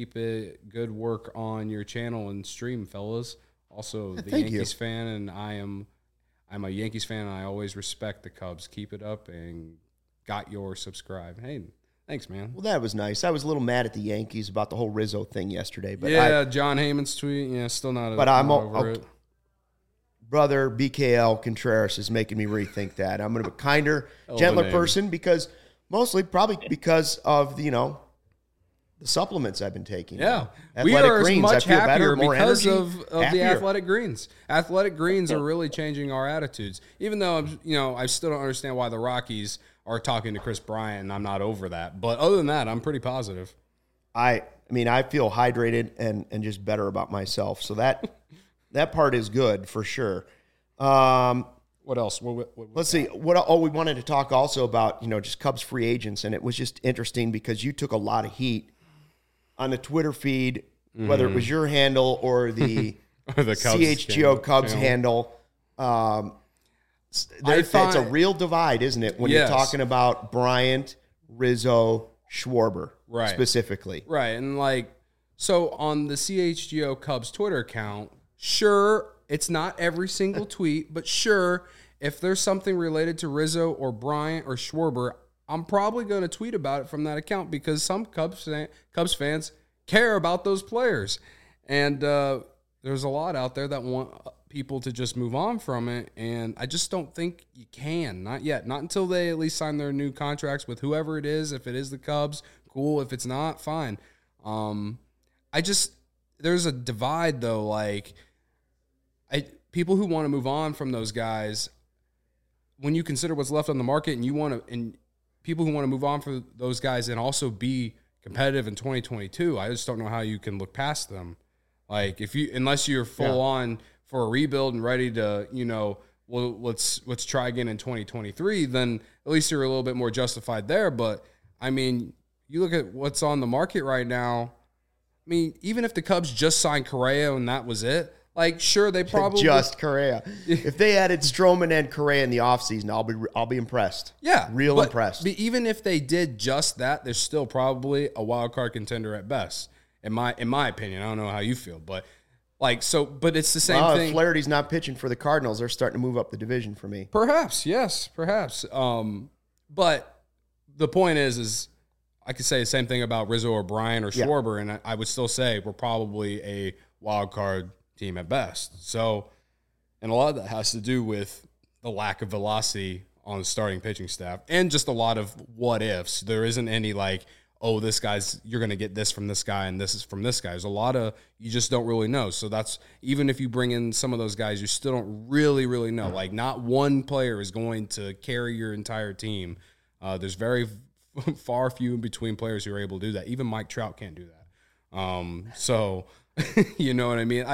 it good work on your channel and stream, fellas. Also, the thank you. Yankees fan, and I'm a Yankees fan, and I always respect the Cubs. Keep it up, and got your subscribe. Hey, thanks, man. Well, that was nice. I was a little mad at the Yankees about the whole Rizzo thing yesterday, but Yeah, John Heyman's tweet. Yeah, still not. But I'm not over it. brother BKL Contreras is making me rethink that. I'm going to be a kinder, gentler name. person because probably because of the supplements I've been taking. Yeah, we Athletic are Greens. much I feel happier better, more because energy, of the happier. Athletic Greens. Athletic Greens are really changing our attitudes. Even though I still don't understand why the Rockies are talking to Chris Bryant, and I'm not over that. But other than that, I'm pretty positive. I feel hydrated and just better about myself. So that part is good for sure. What else? Let's see. We wanted to talk also about, just Cubs free agents, and it was just interesting because you took a lot of heat on the Twitter feed, whether it was your handle or the, Or the Cubs CHGO Cubs channel. handle. It's a real divide, isn't it, when you're talking about Bryant, Rizzo, Schwarber, right, specifically. Right, and so on the CHGO Cubs Twitter account, sure, it's not every single tweet, but sure, if there's something related to Rizzo or Bryant or Schwarber, I'm probably going to tweet about it from that account because some Cubs fans care about those players. And there's a lot out there that want people to just move on from it, and I just don't think you can. Not yet. Not until they at least sign their new contracts with whoever it is. If it is the Cubs, cool. If it's not, fine. There's a divide, though, people who want to move on from those guys, when you consider what's left on the market and people who want to move on from those guys and also be competitive in 2022, I just don't know how you can look past them. Unless you're full on for a rebuild and ready to, let's try again in 2023, then at least you're a little bit more justified there. But I mean, you look at what's on the market right now. I mean, even if the Cubs just signed Correa and that was it, sure, they probably just Correa. If they added Stroman and Correa in the offseason, I'll be impressed. Yeah, impressed. But even if they did just that, there's still probably a wild card contender at best. In my opinion, I don't know how you feel, but but it's the same thing. If Flaherty's not pitching for the Cardinals, they're starting to move up the division for me. Perhaps, yes, perhaps. But the point is I could say the same thing about Rizzo or Bryant or Schwarber, and I would still say we're probably a wild card team at best. So, and a lot of that has to do with the lack of velocity on the starting pitching staff and just a lot of what ifs. There isn't any you're going to get this from this guy and this is from this guy. There's a lot of, you just don't really know. So that's, even if you bring in some of those guys, you still don't really, really know. Not one player is going to carry your entire team. There's very far few in between players who are able to do that. Even Mike Trout can't do that. So, you know what I mean?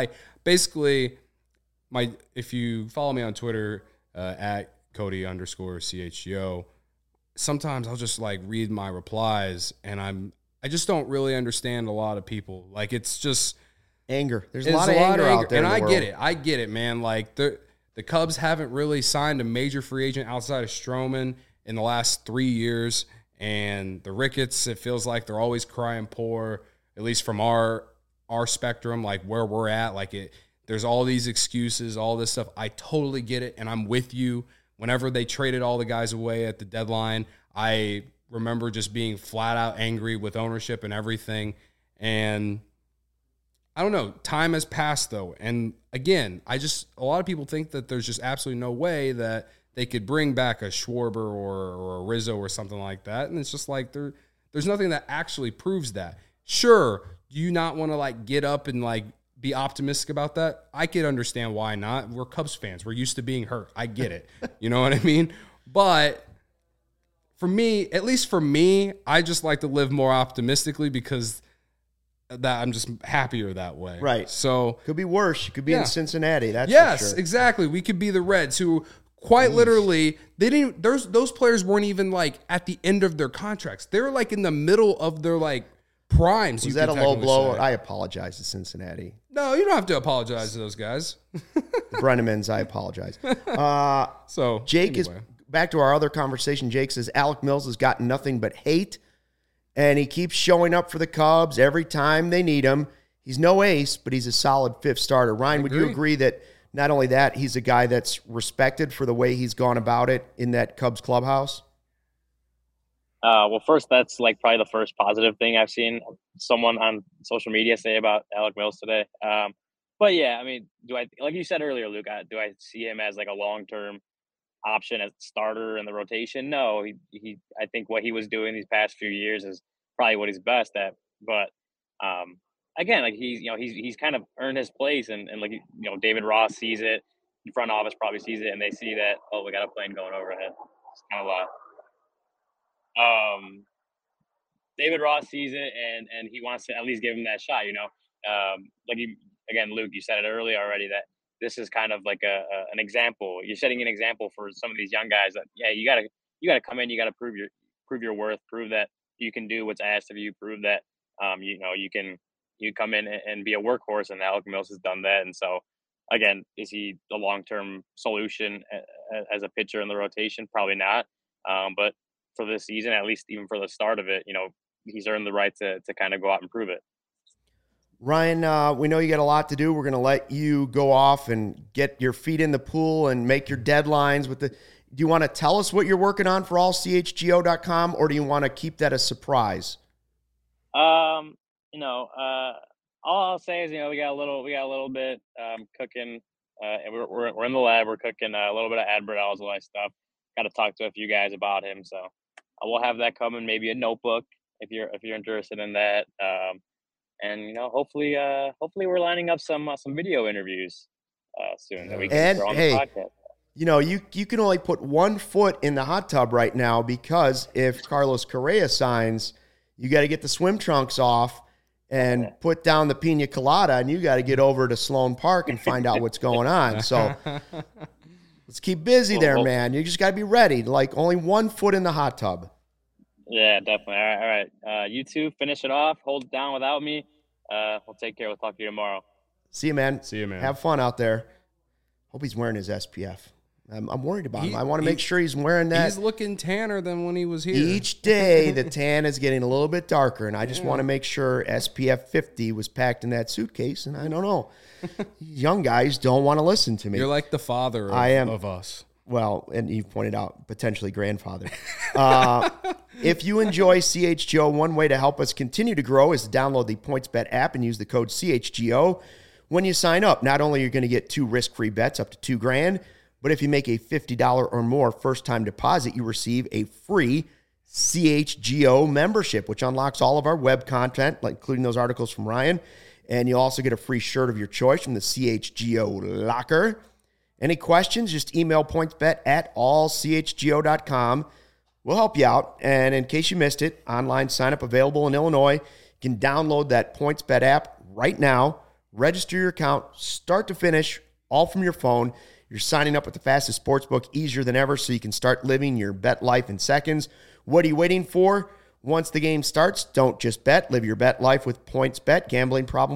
If you follow me on Twitter, at Cody_CHGO, sometimes I'll just read my replies and I just don't really understand a lot of people. It's just anger. There's a lot of anger out there. And I get it, man. The Cubs haven't really signed a major free agent outside of Stroman in the last 3 years. And the Ricketts, it feels like they're always crying poor, at least from our spectrum, where we're at. There's all these excuses, all this stuff. I totally get it, and I'm with you. Whenever they traded all the guys away at the deadline, I remember just being flat out angry with ownership and everything. And I don't know. Time has passed, though. And again, a lot of people think that there's just absolutely no way that they could bring back a Schwarber or a Rizzo or something like that. And it's just there's nothing that actually proves that. Sure, do you not want to get up and be optimistic about that? I could understand why not. We're Cubs fans. We're used to being hurt. I get it. You know what I mean? But for me, at least for me, I just like to live more optimistically because that I'm just happier that way. Right. So could be worse. You could be in Cincinnati. That's yes, for sure. Exactly. We could be the Reds who quite literally they didn't. Those players weren't even at the end of their contracts. They were in the middle of their primes. Was that a low blow? I apologize to Cincinnati. No, you don't have to apologize to those guys. Brennemans, I apologize. So Jake is back to our other conversation. Jake says Alec Mills has gotten nothing but hate, and he keeps showing up for the Cubs every time they need him. He's no ace, but he's a solid fifth starter. Ryan, would you agree that not only that, he's a guy that's respected for the way he's gone about it in that Cubs clubhouse? Well, first, that's probably the first positive thing I've seen someone on social media say about Alec Mills today. But yeah, I mean, like you said earlier, Luke, do I see him as a long-term option as starter in the rotation? No, I think what he was doing these past few years is probably what he's best at. But again, he's kind of earned his place, and David Ross sees it, the front office probably sees it, and they see that, oh, we got a plane going overhead. It's kind of David Ross sees it and he wants to at least give him that shot, Luke, you said it earlier already that this is kind of like an example. You're setting an example for some of these young guys that, yeah, you gotta come in, you gotta prove your worth, prove that you can do what's asked of you, prove that you come in and be a workhorse, and Alec Mills has done that. And so, again, is he the long-term solution as a pitcher in the rotation? Probably not. But for this season, at least even for the start of it, he's earned the right to kind of go out and prove it. Ryan, we know you got a lot to do. We're going to let you go off and get your feet in the pool and make your deadlines with the. Do you want to tell us what you're working on for allchgo.com, or do you want to keep that a surprise? All I'll say is, we got a little bit cooking, and we're in the lab. We're cooking a little bit of Adbert Alzolay stuff. Got to talk to a few guys about him, so we'll have that coming. Maybe a notebook if you're interested in that. And hopefully we're lining up some video interviews soon that we can throw on the podcast. You can only put 1 foot in the hot tub right now, because if Carlos Correa signs, you got to get the swim trunks off and put down the pina colada, and you got to get over to Sloan Park and find out what's going on. So let's keep busy there, man. You just got to be ready. Like, only 1 foot in the hot tub. Yeah, definitely. All right. You two finish it off. Hold it down without me. We'll take care. We'll talk to you tomorrow. See you, man. See you, man. Have fun out there. Hope he's wearing his SPF. I'm worried about him. I want to make sure he's wearing that. He's looking tanner than when he was here. Each day, the tan is getting a little bit darker, and I just want to make sure SPF 50 was packed in that suitcase, and I don't know. Young guys don't want to listen to me. You're like the father of us. Well, and you pointed out potentially grandfather. If you enjoy CHGO, one way to help us continue to grow is to download the PointsBet app and use the code CHGO when you sign up. Not only are you going to get 2 risk-free bets up to $2,000, but if you make a $50 or more first-time deposit, you receive a free CHGO membership, which unlocks all of our web content, including those articles from Ryan. And you'll also get a free shirt of your choice from the CHGO locker. Any questions, just email pointsbet@allchgo.com. We'll help you out. And in case you missed it, online sign-up available in Illinois. You can download that PointsBet app right now. Register your account, start to finish, all from your phone. You're signing up with the fastest sportsbook, easier than ever, so you can start living your bet life in seconds. What are you waiting for? Once the game starts, don't just bet. Live your bet life with PointsBet. Gambling problem,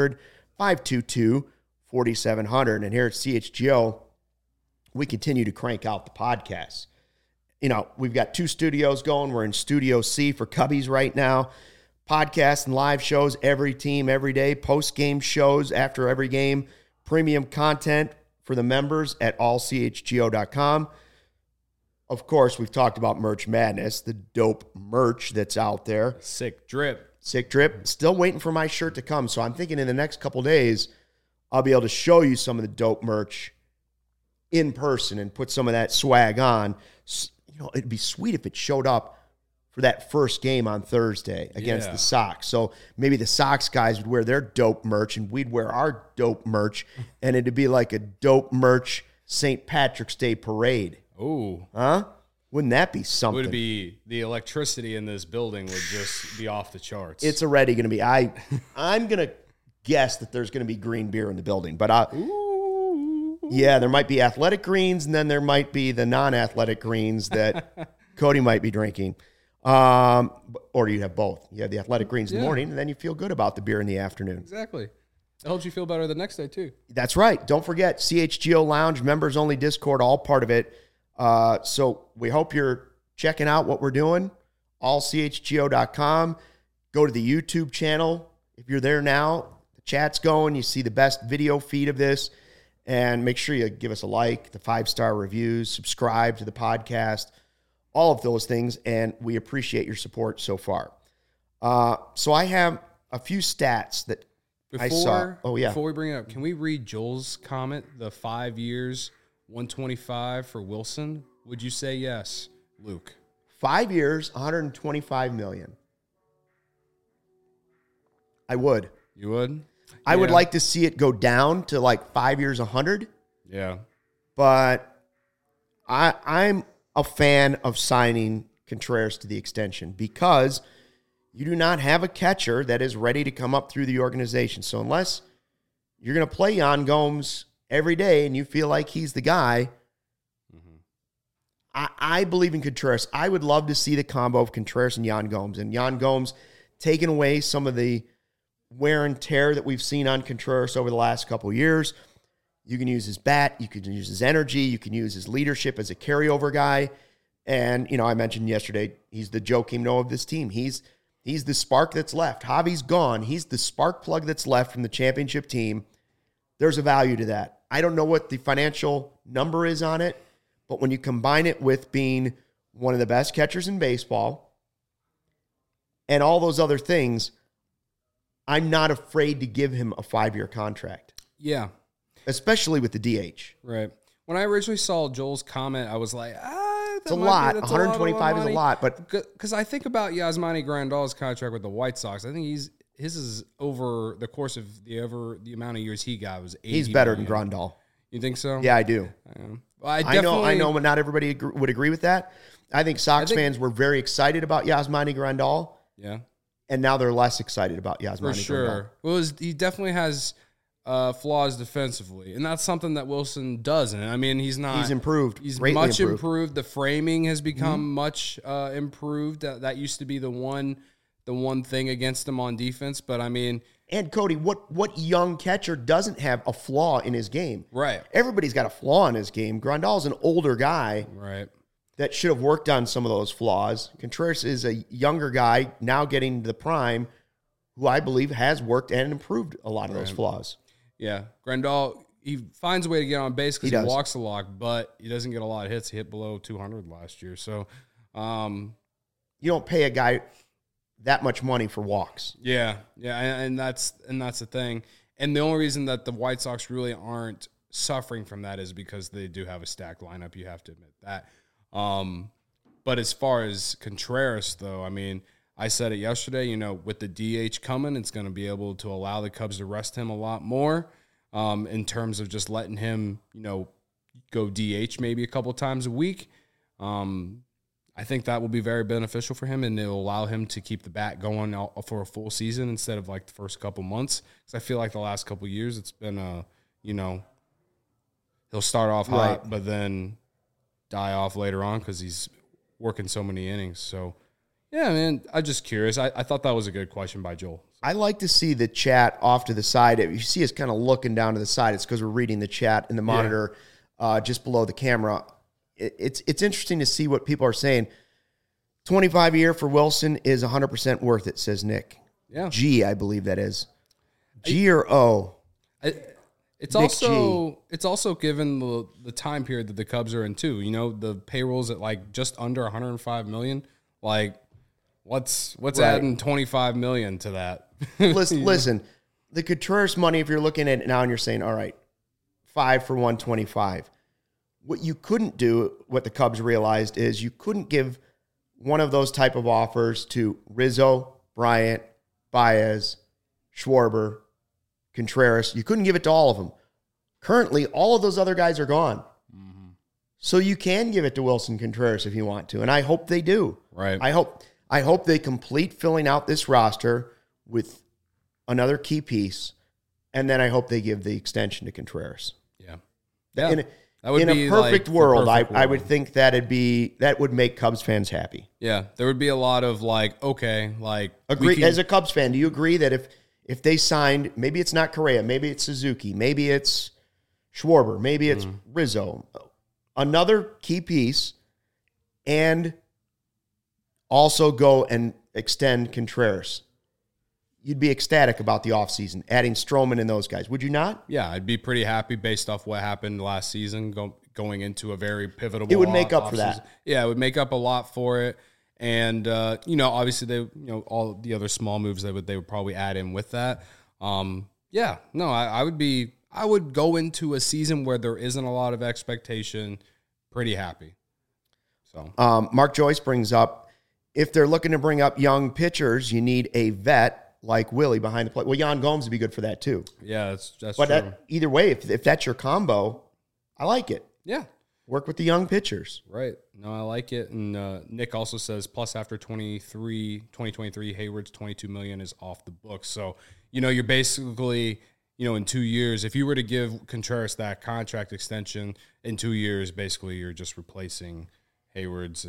1-800-522-4700. And here at CHGO, we continue to crank out the podcasts. We've got 2 studios going. We're in Studio C for Cubbies right now. Podcasts and live shows, every team, every day. Post-game shows after every game. Premium content for the members at allchgo.com. Of course, we've talked about Merch Madness, the dope merch that's out there. Sick drip. Still waiting for my shirt to come. So I'm thinking in the next couple days, I'll be able to show you some of the dope merch in person and put some of that swag on. It'd be sweet if it showed up for that first game on Thursday against the Sox. So maybe the Sox guys would wear their dope merch and we'd wear our dope merch, and it'd be like a dope merch St. Patrick's Day parade. Ooh. Huh? Wouldn't that be something? Would be the electricity in this building would just be off the charts. It's already going to be. I'm going to guess that there's going to be green beer in the building, but yeah, there might be athletic greens, and then there might be the non-athletic greens that Cody might be drinking. Or you have both. You have the athletic greens in the morning, and then you feel good about the beer in the afternoon. Exactly. It helps you feel better the next day, too. That's right. Don't forget, CHGO Lounge, members-only Discord, all part of it. So we hope you're checking out what we're doing, allchgo.com. Go to the YouTube channel. If you're there now, the chat's going. You see the best video feed of this. And make sure you give us a like, the 5-star reviews, subscribe to the podcast, all of those things. And we appreciate your support so far. So I have a few stats that I saw. Oh, yeah. Before we bring it up, can we read Joel's comment, the 5 years, 125 for Wilson? Would you say yes, Luke? 5 years, $125 million. I would. You would? I would like to see it go down to like 5 years, 100. Yeah. But I'm a fan of signing Contreras to the extension because you do not have a catcher that is ready to come up through the organization. So unless you're going to play Yan Gomes every day and you feel like he's the guy, I believe in Contreras. I would love to see the combo of Contreras and Yan Gomes. And Yan Gomes taking away some of the wear and tear that we've seen on Contreras over the last couple of years. You can use his bat. You can use his energy. You can use his leadership as a carryover guy. And, I mentioned yesterday, he's the Joakim Noah of this team. He's the spark that's left. Javi's gone. He's the spark plug that's left from the championship team. There's a value to that. I don't know what the financial number is on it, but when you combine it with being one of the best catchers in baseball and all those other things, I'm not afraid to give him a 5-year contract. Yeah. Especially with the DH. Right. When I originally saw Joel's comment, I was like, it's a lot. 125 is a lot. But because I think about Yasmani Grandal's contract with the White Sox, I think his is over the course of the amount of years he got was 80 he's better million. than Grandal. You think so? Yeah, I do. Well, I know, but not everybody would agree with that. I think Sox fans were very excited about Yasmani Grandal. Yeah. And now they're less excited about Yasmani Grandal. For sure. Well, he definitely has flaws defensively, and that's something that Wilson doesn't. I mean, he's improved. He's greatly much improved. The framing has become much improved. That used to be the one thing against him on defense. But I mean, and Cody, what young catcher doesn't have a flaw in his game? Right. Everybody's got a flaw in his game. Grandal's an older guy, right, that should have worked on some of those flaws. Contreras is a younger guy now getting to the prime, who I believe has worked and improved a lot of those flaws. Yeah, Grandal, he finds a way to get on base because he walks a lot, but he doesn't get a lot of hits. He hit below 200 last year. So you don't pay a guy that much money for walks. Yeah, and that's the thing. And the only reason that the White Sox really aren't suffering from that is because they do have a stacked lineup. You have to admit that. But as far as Contreras, though, I mean, I said it yesterday, with the DH coming, it's going to be able to allow the Cubs to rest him a lot more in terms of just letting him, go DH maybe a couple times a week. I think that will be very beneficial for him, and it'll allow him to keep the bat going for a full season instead of like the first couple months. Because I feel like the last couple years it's been, he'll start off hot, but then die off later on because he's working so many innings. So, yeah, man, I'm just curious. I thought that was a good question by Joel. I like to see the chat off to the side. If you see us kind of looking down to the side, it's because we're reading the chat in the monitor just below the camera. It's interesting to see what people are saying. 25 a year for Wilson is 100% worth it, says Nick. Yeah. G, I believe that is. G or O? It's also given the time period that the Cubs are in too. The payroll's at like just under 105 million. Like, what's adding 25 million to that? Listen, the Contreras money, if you're looking at it now and you're saying, all right, 5 for 125. What you couldn't do, what the Cubs realized, is you couldn't give one of those type of offers to Rizzo, Bryant, Baez, Schwarber, Contreras. You couldn't give it to all of them. Currently, all of those other guys are gone. Mm-hmm. So you can give it to Wilson Contreras if you want to, and I hope they do. Right. I hope they complete filling out this roster with another key piece, and then I hope they give the extension to Contreras. Yeah. In a perfect world, I would think that would make Cubs fans happy. Yeah, there would be a lot of agree. As a Cubs fan, do you agree that if they signed, maybe it's not Correa, maybe it's Suzuki, maybe it's Schwarber, maybe it's Rizzo, another key piece, and also go and extend Contreras, you'd be ecstatic about the offseason, adding Stroman and those guys, would you not? Yeah, I'd be pretty happy based off what happened last season, going into a very pivotal. It would make up for that. Yeah, it would make up a lot for it, and obviously they, all the other small moves they would probably add in with that. I would go into a season where there isn't a lot of expectation, pretty happy. So, Mark Joyce brings up, if they're looking to bring up young pitchers, you need a vet like Willie behind the plate. Well, Yan Gomes would be good for that too. Yeah, that's but true. Either way, if that's your combo, I like it. Yeah. Work with the young pitchers. Right. No, I like it. And Nick also says, plus after 2023, Hayward's $22 million is off the books. So, you're basically, in 2 years, if you were to give Contreras that contract extension in 2 years, basically you're just replacing Hayward's,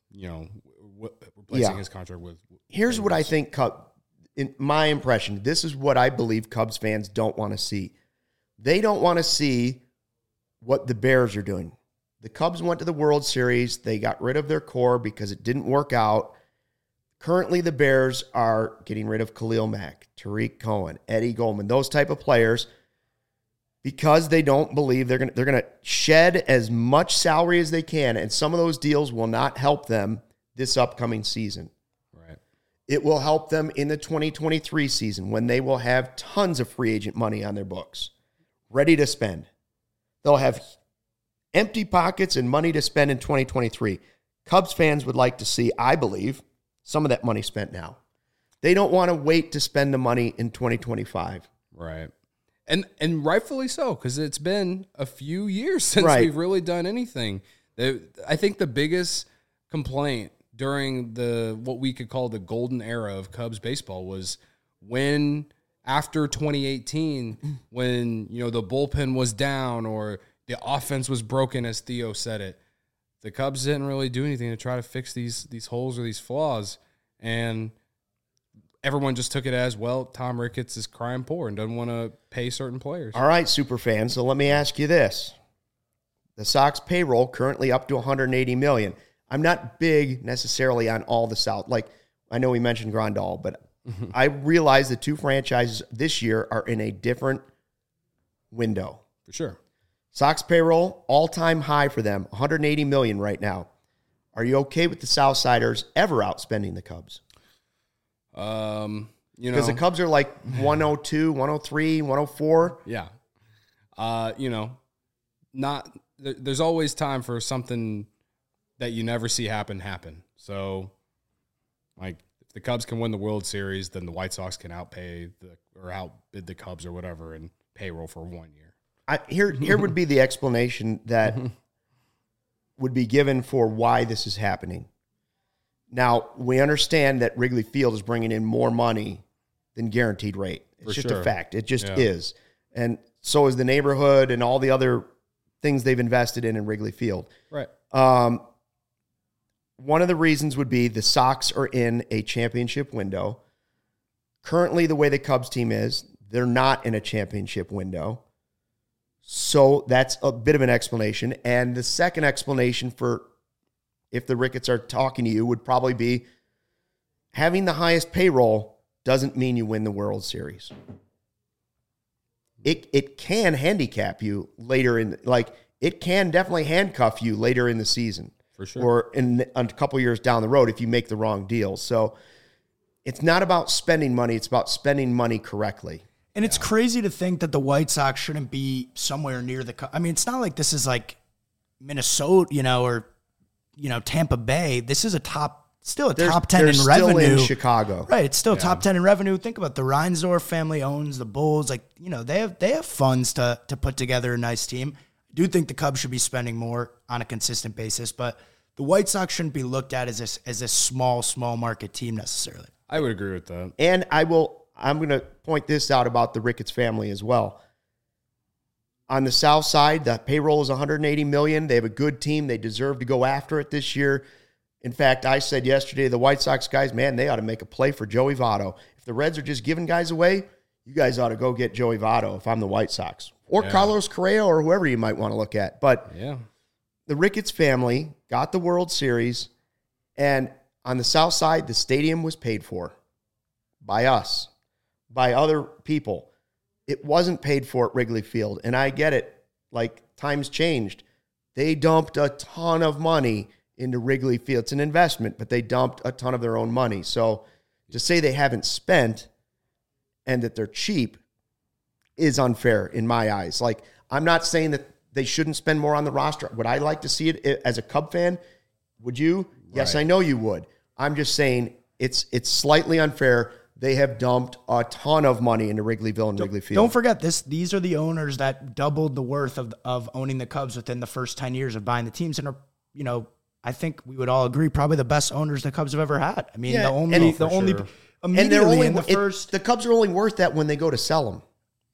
replacing his contract with. Here's what I think, in my impression, this is what I believe Cubs fans don't want to see. They don't want to see what the Bears are doing. The Cubs went to the World Series. They got rid of their core because it didn't work out. Currently, the Bears are getting rid of Khalil Mack, Tariq Cohen, Eddie Goldman, those type of players, because they don't believe they're going to shed as much salary as they can, and some of those deals will not help them this upcoming season. Right. It will help them in the 2023 season when they will have tons of free agent money on their books, ready to spend. They'll have empty pockets and money to spend in 2023. Cubs fans would like to see, I believe, some of that money spent now. They don't want to wait to spend the money in 2025. Right. And rightfully so, because it's been a few years since we've really done anything. I think the biggest complaint during what we could call the golden era of Cubs baseball was when, after 2018, when the bullpen was down or the offense was broken, as Theo said it, the Cubs didn't really do anything to try to fix these holes or these flaws. And everyone just took it as, well, Tom Ricketts is crying poor and doesn't want to pay certain players. All right, super fans. So let me ask you this. The Sox payroll currently up to $180 million. I'm not big necessarily on all the South. Like, I know we mentioned Grandal, but I realize the two franchises this year are in a different window. For sure. Sox payroll, all-time high for them, $180 million right now. Are you okay with the Southsiders ever outspending the Cubs? Because the Cubs are like 102, 103, 104. Yeah. There's always time for something that you never see happen. So, like, if the Cubs can win the World Series, then the White Sox can outbid the Cubs or whatever in payroll for 1 year. Here would be the explanation that would be given for why this is happening. Now, we understand that Wrigley Field is bringing in more money than guaranteed rate. It's just a fact. It just is. And so is the neighborhood and all the other things they've invested in Wrigley Field. Right. One of the reasons would be the Sox are in a championship window. Currently, the way the Cubs team is, they're not in a championship window. So that's a bit of an explanation. And the second explanation for if the Ricketts are talking to you would probably be having the highest payroll doesn't mean you win the World Series. It can handicap you later it can definitely handcuff you later in the season. For sure. Or in a couple years down the road if you make the wrong deal. So it's not about spending money. It's about spending money correctly. And it's crazy to think that the White Sox shouldn't be somewhere near I mean, it's not like this is like Minnesota, or Tampa Bay. This is still a top 10 in revenue. Still in Chicago. Right, it's still top 10 in revenue. Think about the Reinsdorf family owns the Bulls. Like, they have funds to put together a nice team. I do think the Cubs should be spending more on a consistent basis, but the White Sox shouldn't be looked at as a small market team necessarily. I would agree with that. And I'm going to point this out about the Ricketts family as well. On the South side, the payroll is $180 million. They have a good team. They deserve to go after it this year. In fact, I said yesterday, the White Sox guys, man, they ought to make a play for Joey Votto. If the Reds are just giving guys away, you guys ought to go get Joey Votto if I'm the White Sox. Or Carlos Correa or whoever you might want to look at. But the Ricketts family got the World Series, and on the South side, the stadium was paid for by us, by other people. It wasn't paid for at Wrigley Field, and I get it. Like, times changed. They dumped a ton of money into Wrigley Field. It's an investment, but they dumped a ton of their own money. So to say they haven't spent and that they're cheap is unfair in my eyes. Like, I'm not saying that they shouldn't spend more on the roster. Would I like to see it as a Cub fan? Would you? Right. Yes, I know you would. I'm just saying it's slightly unfair. They have dumped a ton of money into Wrigleyville and Wrigley Field. Don't forget this. These are the owners that doubled the worth of owning the Cubs within the first 10 years of buying the teams, and are, I think we would all agree, probably the best owners the Cubs have ever had. I mean, the Cubs are only worth that when they go to sell them.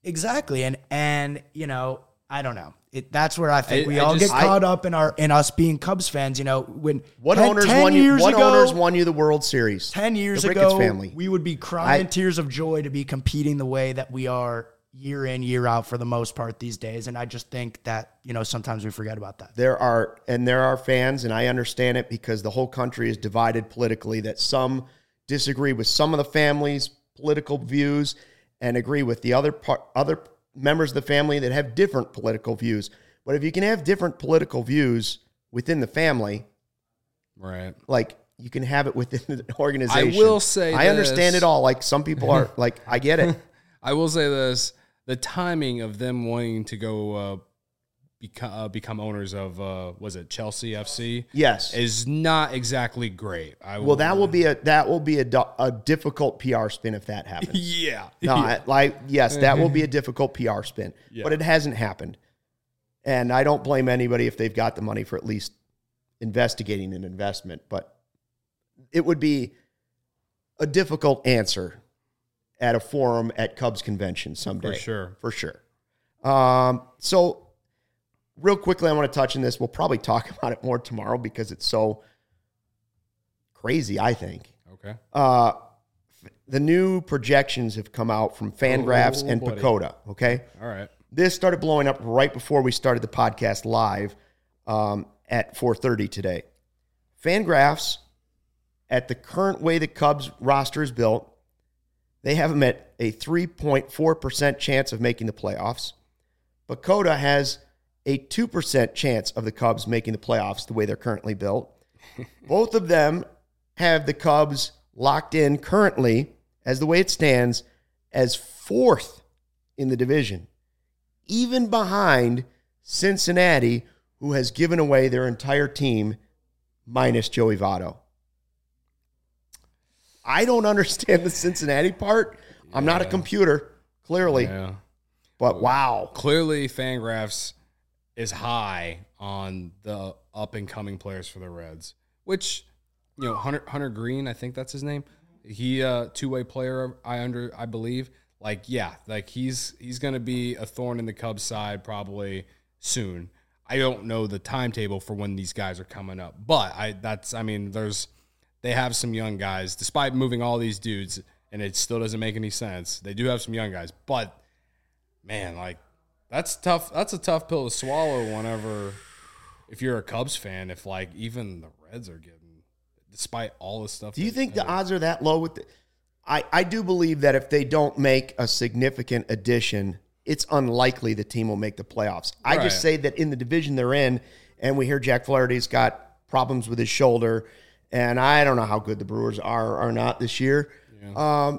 Exactly. And you know, I don't know. That's where I think we all just- get caught up in us being Cubs fans. You know, when What 10 owners 10 won you? years What ago, owners won you the World Series? 10 years The Ricketts ago, family. we would be crying tears of joy to be competing the way that we are year in, year out for the most part these days. And I just think that, you know, sometimes we forget about that. There are fans, and I understand it because the whole country is divided politically, that some disagree with some of the family's political views and agree with the other members of the family that have different political views. But if you can have different political views within the family, Right. like you can have it within the organization. I will say I understand this. it all. Like some people are like, I get it. I will say this: the timing of them wanting to go become owners of was it Chelsea FC? Yes. is not exactly great. Well, that will be a difficult PR spin if that happens. yeah. No, yes, that will be a difficult PR spin, but it hasn't happened. And I don't blame anybody if they've got the money for at least investigating an investment, but it would be a difficult answer at a forum at Cubs convention someday. For sure. So real quickly, I want to touch on this. We'll probably talk about it more tomorrow because it's so crazy, I think. Okay. The new projections have come out from Fangraphs and buddy. Pacoda, okay? All right. This started blowing up right before we started the podcast live at 4:30 today. Fangraphs, at the current way the Cubs roster is built, they have them at a 3.4% chance of making the playoffs. Pacoda has a 2% chance of the Cubs making the playoffs the way they're currently built. Both of them have the Cubs locked in currently, as the way it stands, as fourth in the division, even behind Cincinnati, who has given away their entire team minus Joey Votto. I don't understand the Cincinnati part. I'm not a computer, clearly. Yeah. But wow. Clearly, Fangraphs is high on the up-and-coming players for the Reds, which, you know, Hunter Green, I think that's his name. He two-way player, I believe. Like, yeah, like he's going to be a thorn in the Cubs' side probably soon. I don't know the timetable for when these guys are coming up, but they have some young guys, despite moving all these dudes, and it still doesn't make any sense. They do have some young guys, but man, like that's tough. That's a tough pill to swallow whenever, if you're a Cubs fan, if like even the Reds are getting, despite all the stuff. Do you think the odds are that low with I do believe that if they don't make a significant addition, it's unlikely the team will make the playoffs. I just say that in the division they're in, and we hear Jack Flaherty's got problems with his shoulder, and I don't know how good the Brewers are or not this year. Yeah.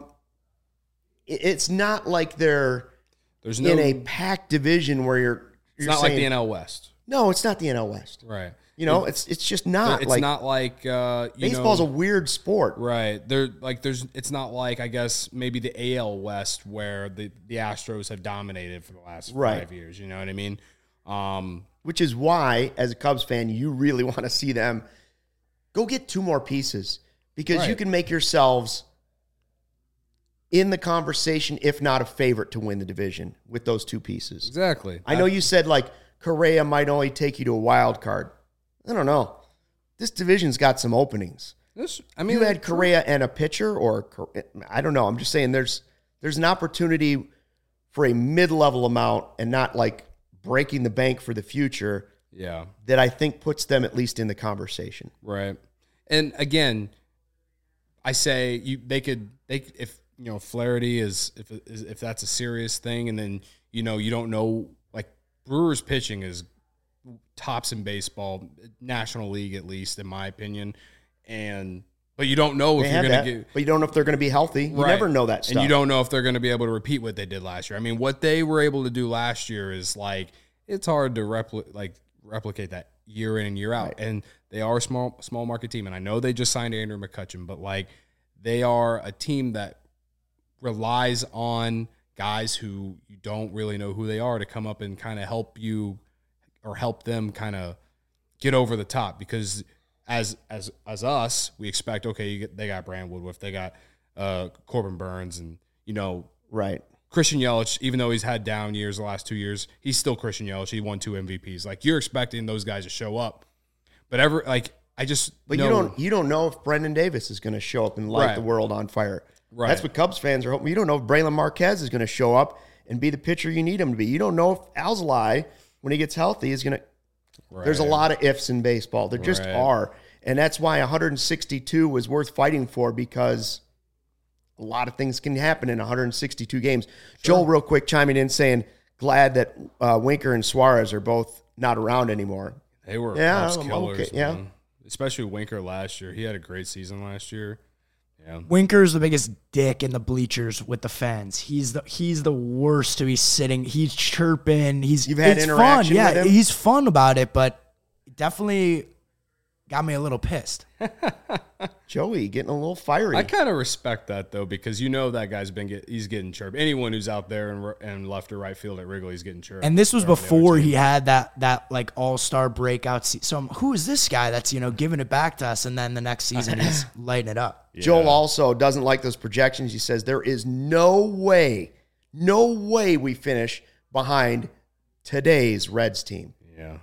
It's not like there's in a packed division where you're not saying, like the NL West. No, it's not the NL West. Right. You know, it's just not. It's not like baseball's a weird sport, right? It's not like, I guess, maybe the AL West where the Astros have dominated for the last 5 years. You know what I mean? Which is why, as a Cubs fan, you really want to see them go get two more pieces because you can make yourselves in the conversation, if not a favorite to win the division with those two pieces. Exactly. I know you said like Correa might only take you to a wild card. I don't know. This division's got some openings. You had Correa and a pitcher, or I don't know. I'm just saying there's an opportunity for a mid-level amount and not like breaking the bank for the future. Yeah, that I think puts them at least in the conversation. Right. And again, I say if Flaherty if that's a serious thing, and then you don't know, like Brewers pitching is tops in baseball, National League at least, in my opinion. But you don't know if you're going to get. But you don't know if they're going to be healthy. You never know that stuff. And you don't know if they're going to be able to repeat what they did last year. I mean, what they were able to do last year is like it's hard to replicate that year in and year out. Right. And they are a small market team. And I know they just signed Andrew McCutchen, but like they are a team that relies on guys who you don't really know who they are to come up and kind of help you or help them kind of get over the top. Because as us, we expect, okay, they got Brand Woodruff, they got Corbin Burns, and right, Christian Yelich, even though he's had down years the last 2 years, he's still Christian Yelich. He won 2 MVPs. Like, you're expecting those guys to show up. But you don't know if Brendan Davis is going to show up and light the world on fire. Right. That's what Cubs fans are hoping. You don't know if Braylon Marquez is going to show up and be the pitcher you need him to be. You don't know if Alzolay, when he gets healthy, is going to. Right. There's a lot of ifs in baseball. There just are. And that's why 162 was worth fighting for, because a lot of things can happen in 162 games. Sure. Joel, real quick, chiming in saying, glad that Winker and Suarez are both not around anymore. They were killers, okay. Man. Especially Winker last year. He had a great season last year. Yeah. Winker's the biggest dick in the bleachers with the fans. He's the worst to be sitting. He's chirping. You've had interaction with him? He's fun about it, but definitely got me a little pissed. Joey getting a little fiery. I kind of respect that, though, because that guy's he's getting chirped. Anyone who's out there and left or right field at Wrigley's getting chirped. And this was before he had that like all-star breakout season. So who is this guy that's giving it back to us, and then the next season he's lighting it up? Yeah. Joel also doesn't like those projections. He says there is no way we finish behind today's Reds team. Yeah,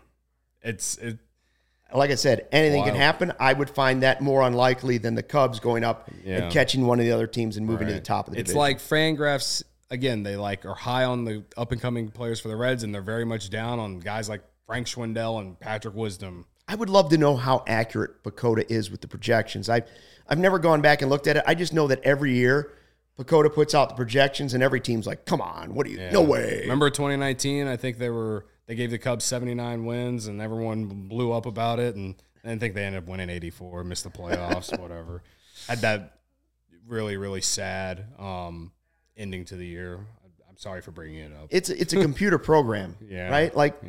like I said, anything can happen. I would find that more unlikely than the Cubs going up and catching one of the other teams and moving to the top of the division. It's like Fangraphs, again, they are high on the up-and-coming players for the Reds, and they're very much down on guys like Frank Schwindel and Patrick Wisdom. I would love to know how accurate Pacoda is with the projections. I've never gone back and looked at it. I just know that every year Pacoda puts out the projections, and every team's like, come on, what are you? No way. Remember 2019? I think they gave the Cubs 79 wins, and everyone blew up about it. And I think they ended up winning 84, missed the playoffs, whatever. Had that really, really sad ending to the year. I'm sorry for bringing it up. It's a computer program, right? Like,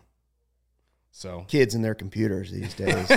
so kids and their computers these days.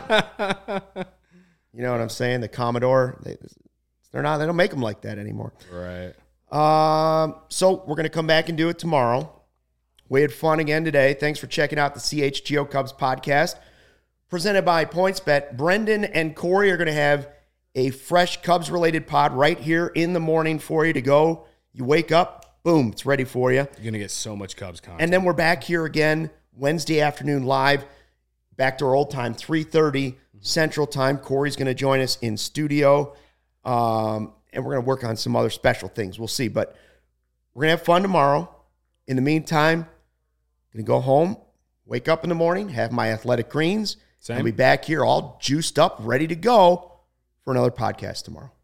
You know what I'm saying? The Commodore, they don't make them like that anymore. Right. So we're going to come back and do it tomorrow. We had fun again today. Thanks for checking out the CHGO Cubs podcast presented by PointsBet. Brendan and Corey are going to have a fresh Cubs-related pod right here in the morning for you to go. You wake up, boom, it's ready for you. You're going to get so much Cubs content. And then we're back here again Wednesday afternoon live, back to our old time, 3:30 Central Time. Corey's going to join us in studio, and we're going to work on some other special things. We'll see, but we're going to have fun tomorrow. In the meantime, going to go home, wake up in the morning, have my athletic greens, and be back here all juiced up, ready to go for another podcast tomorrow.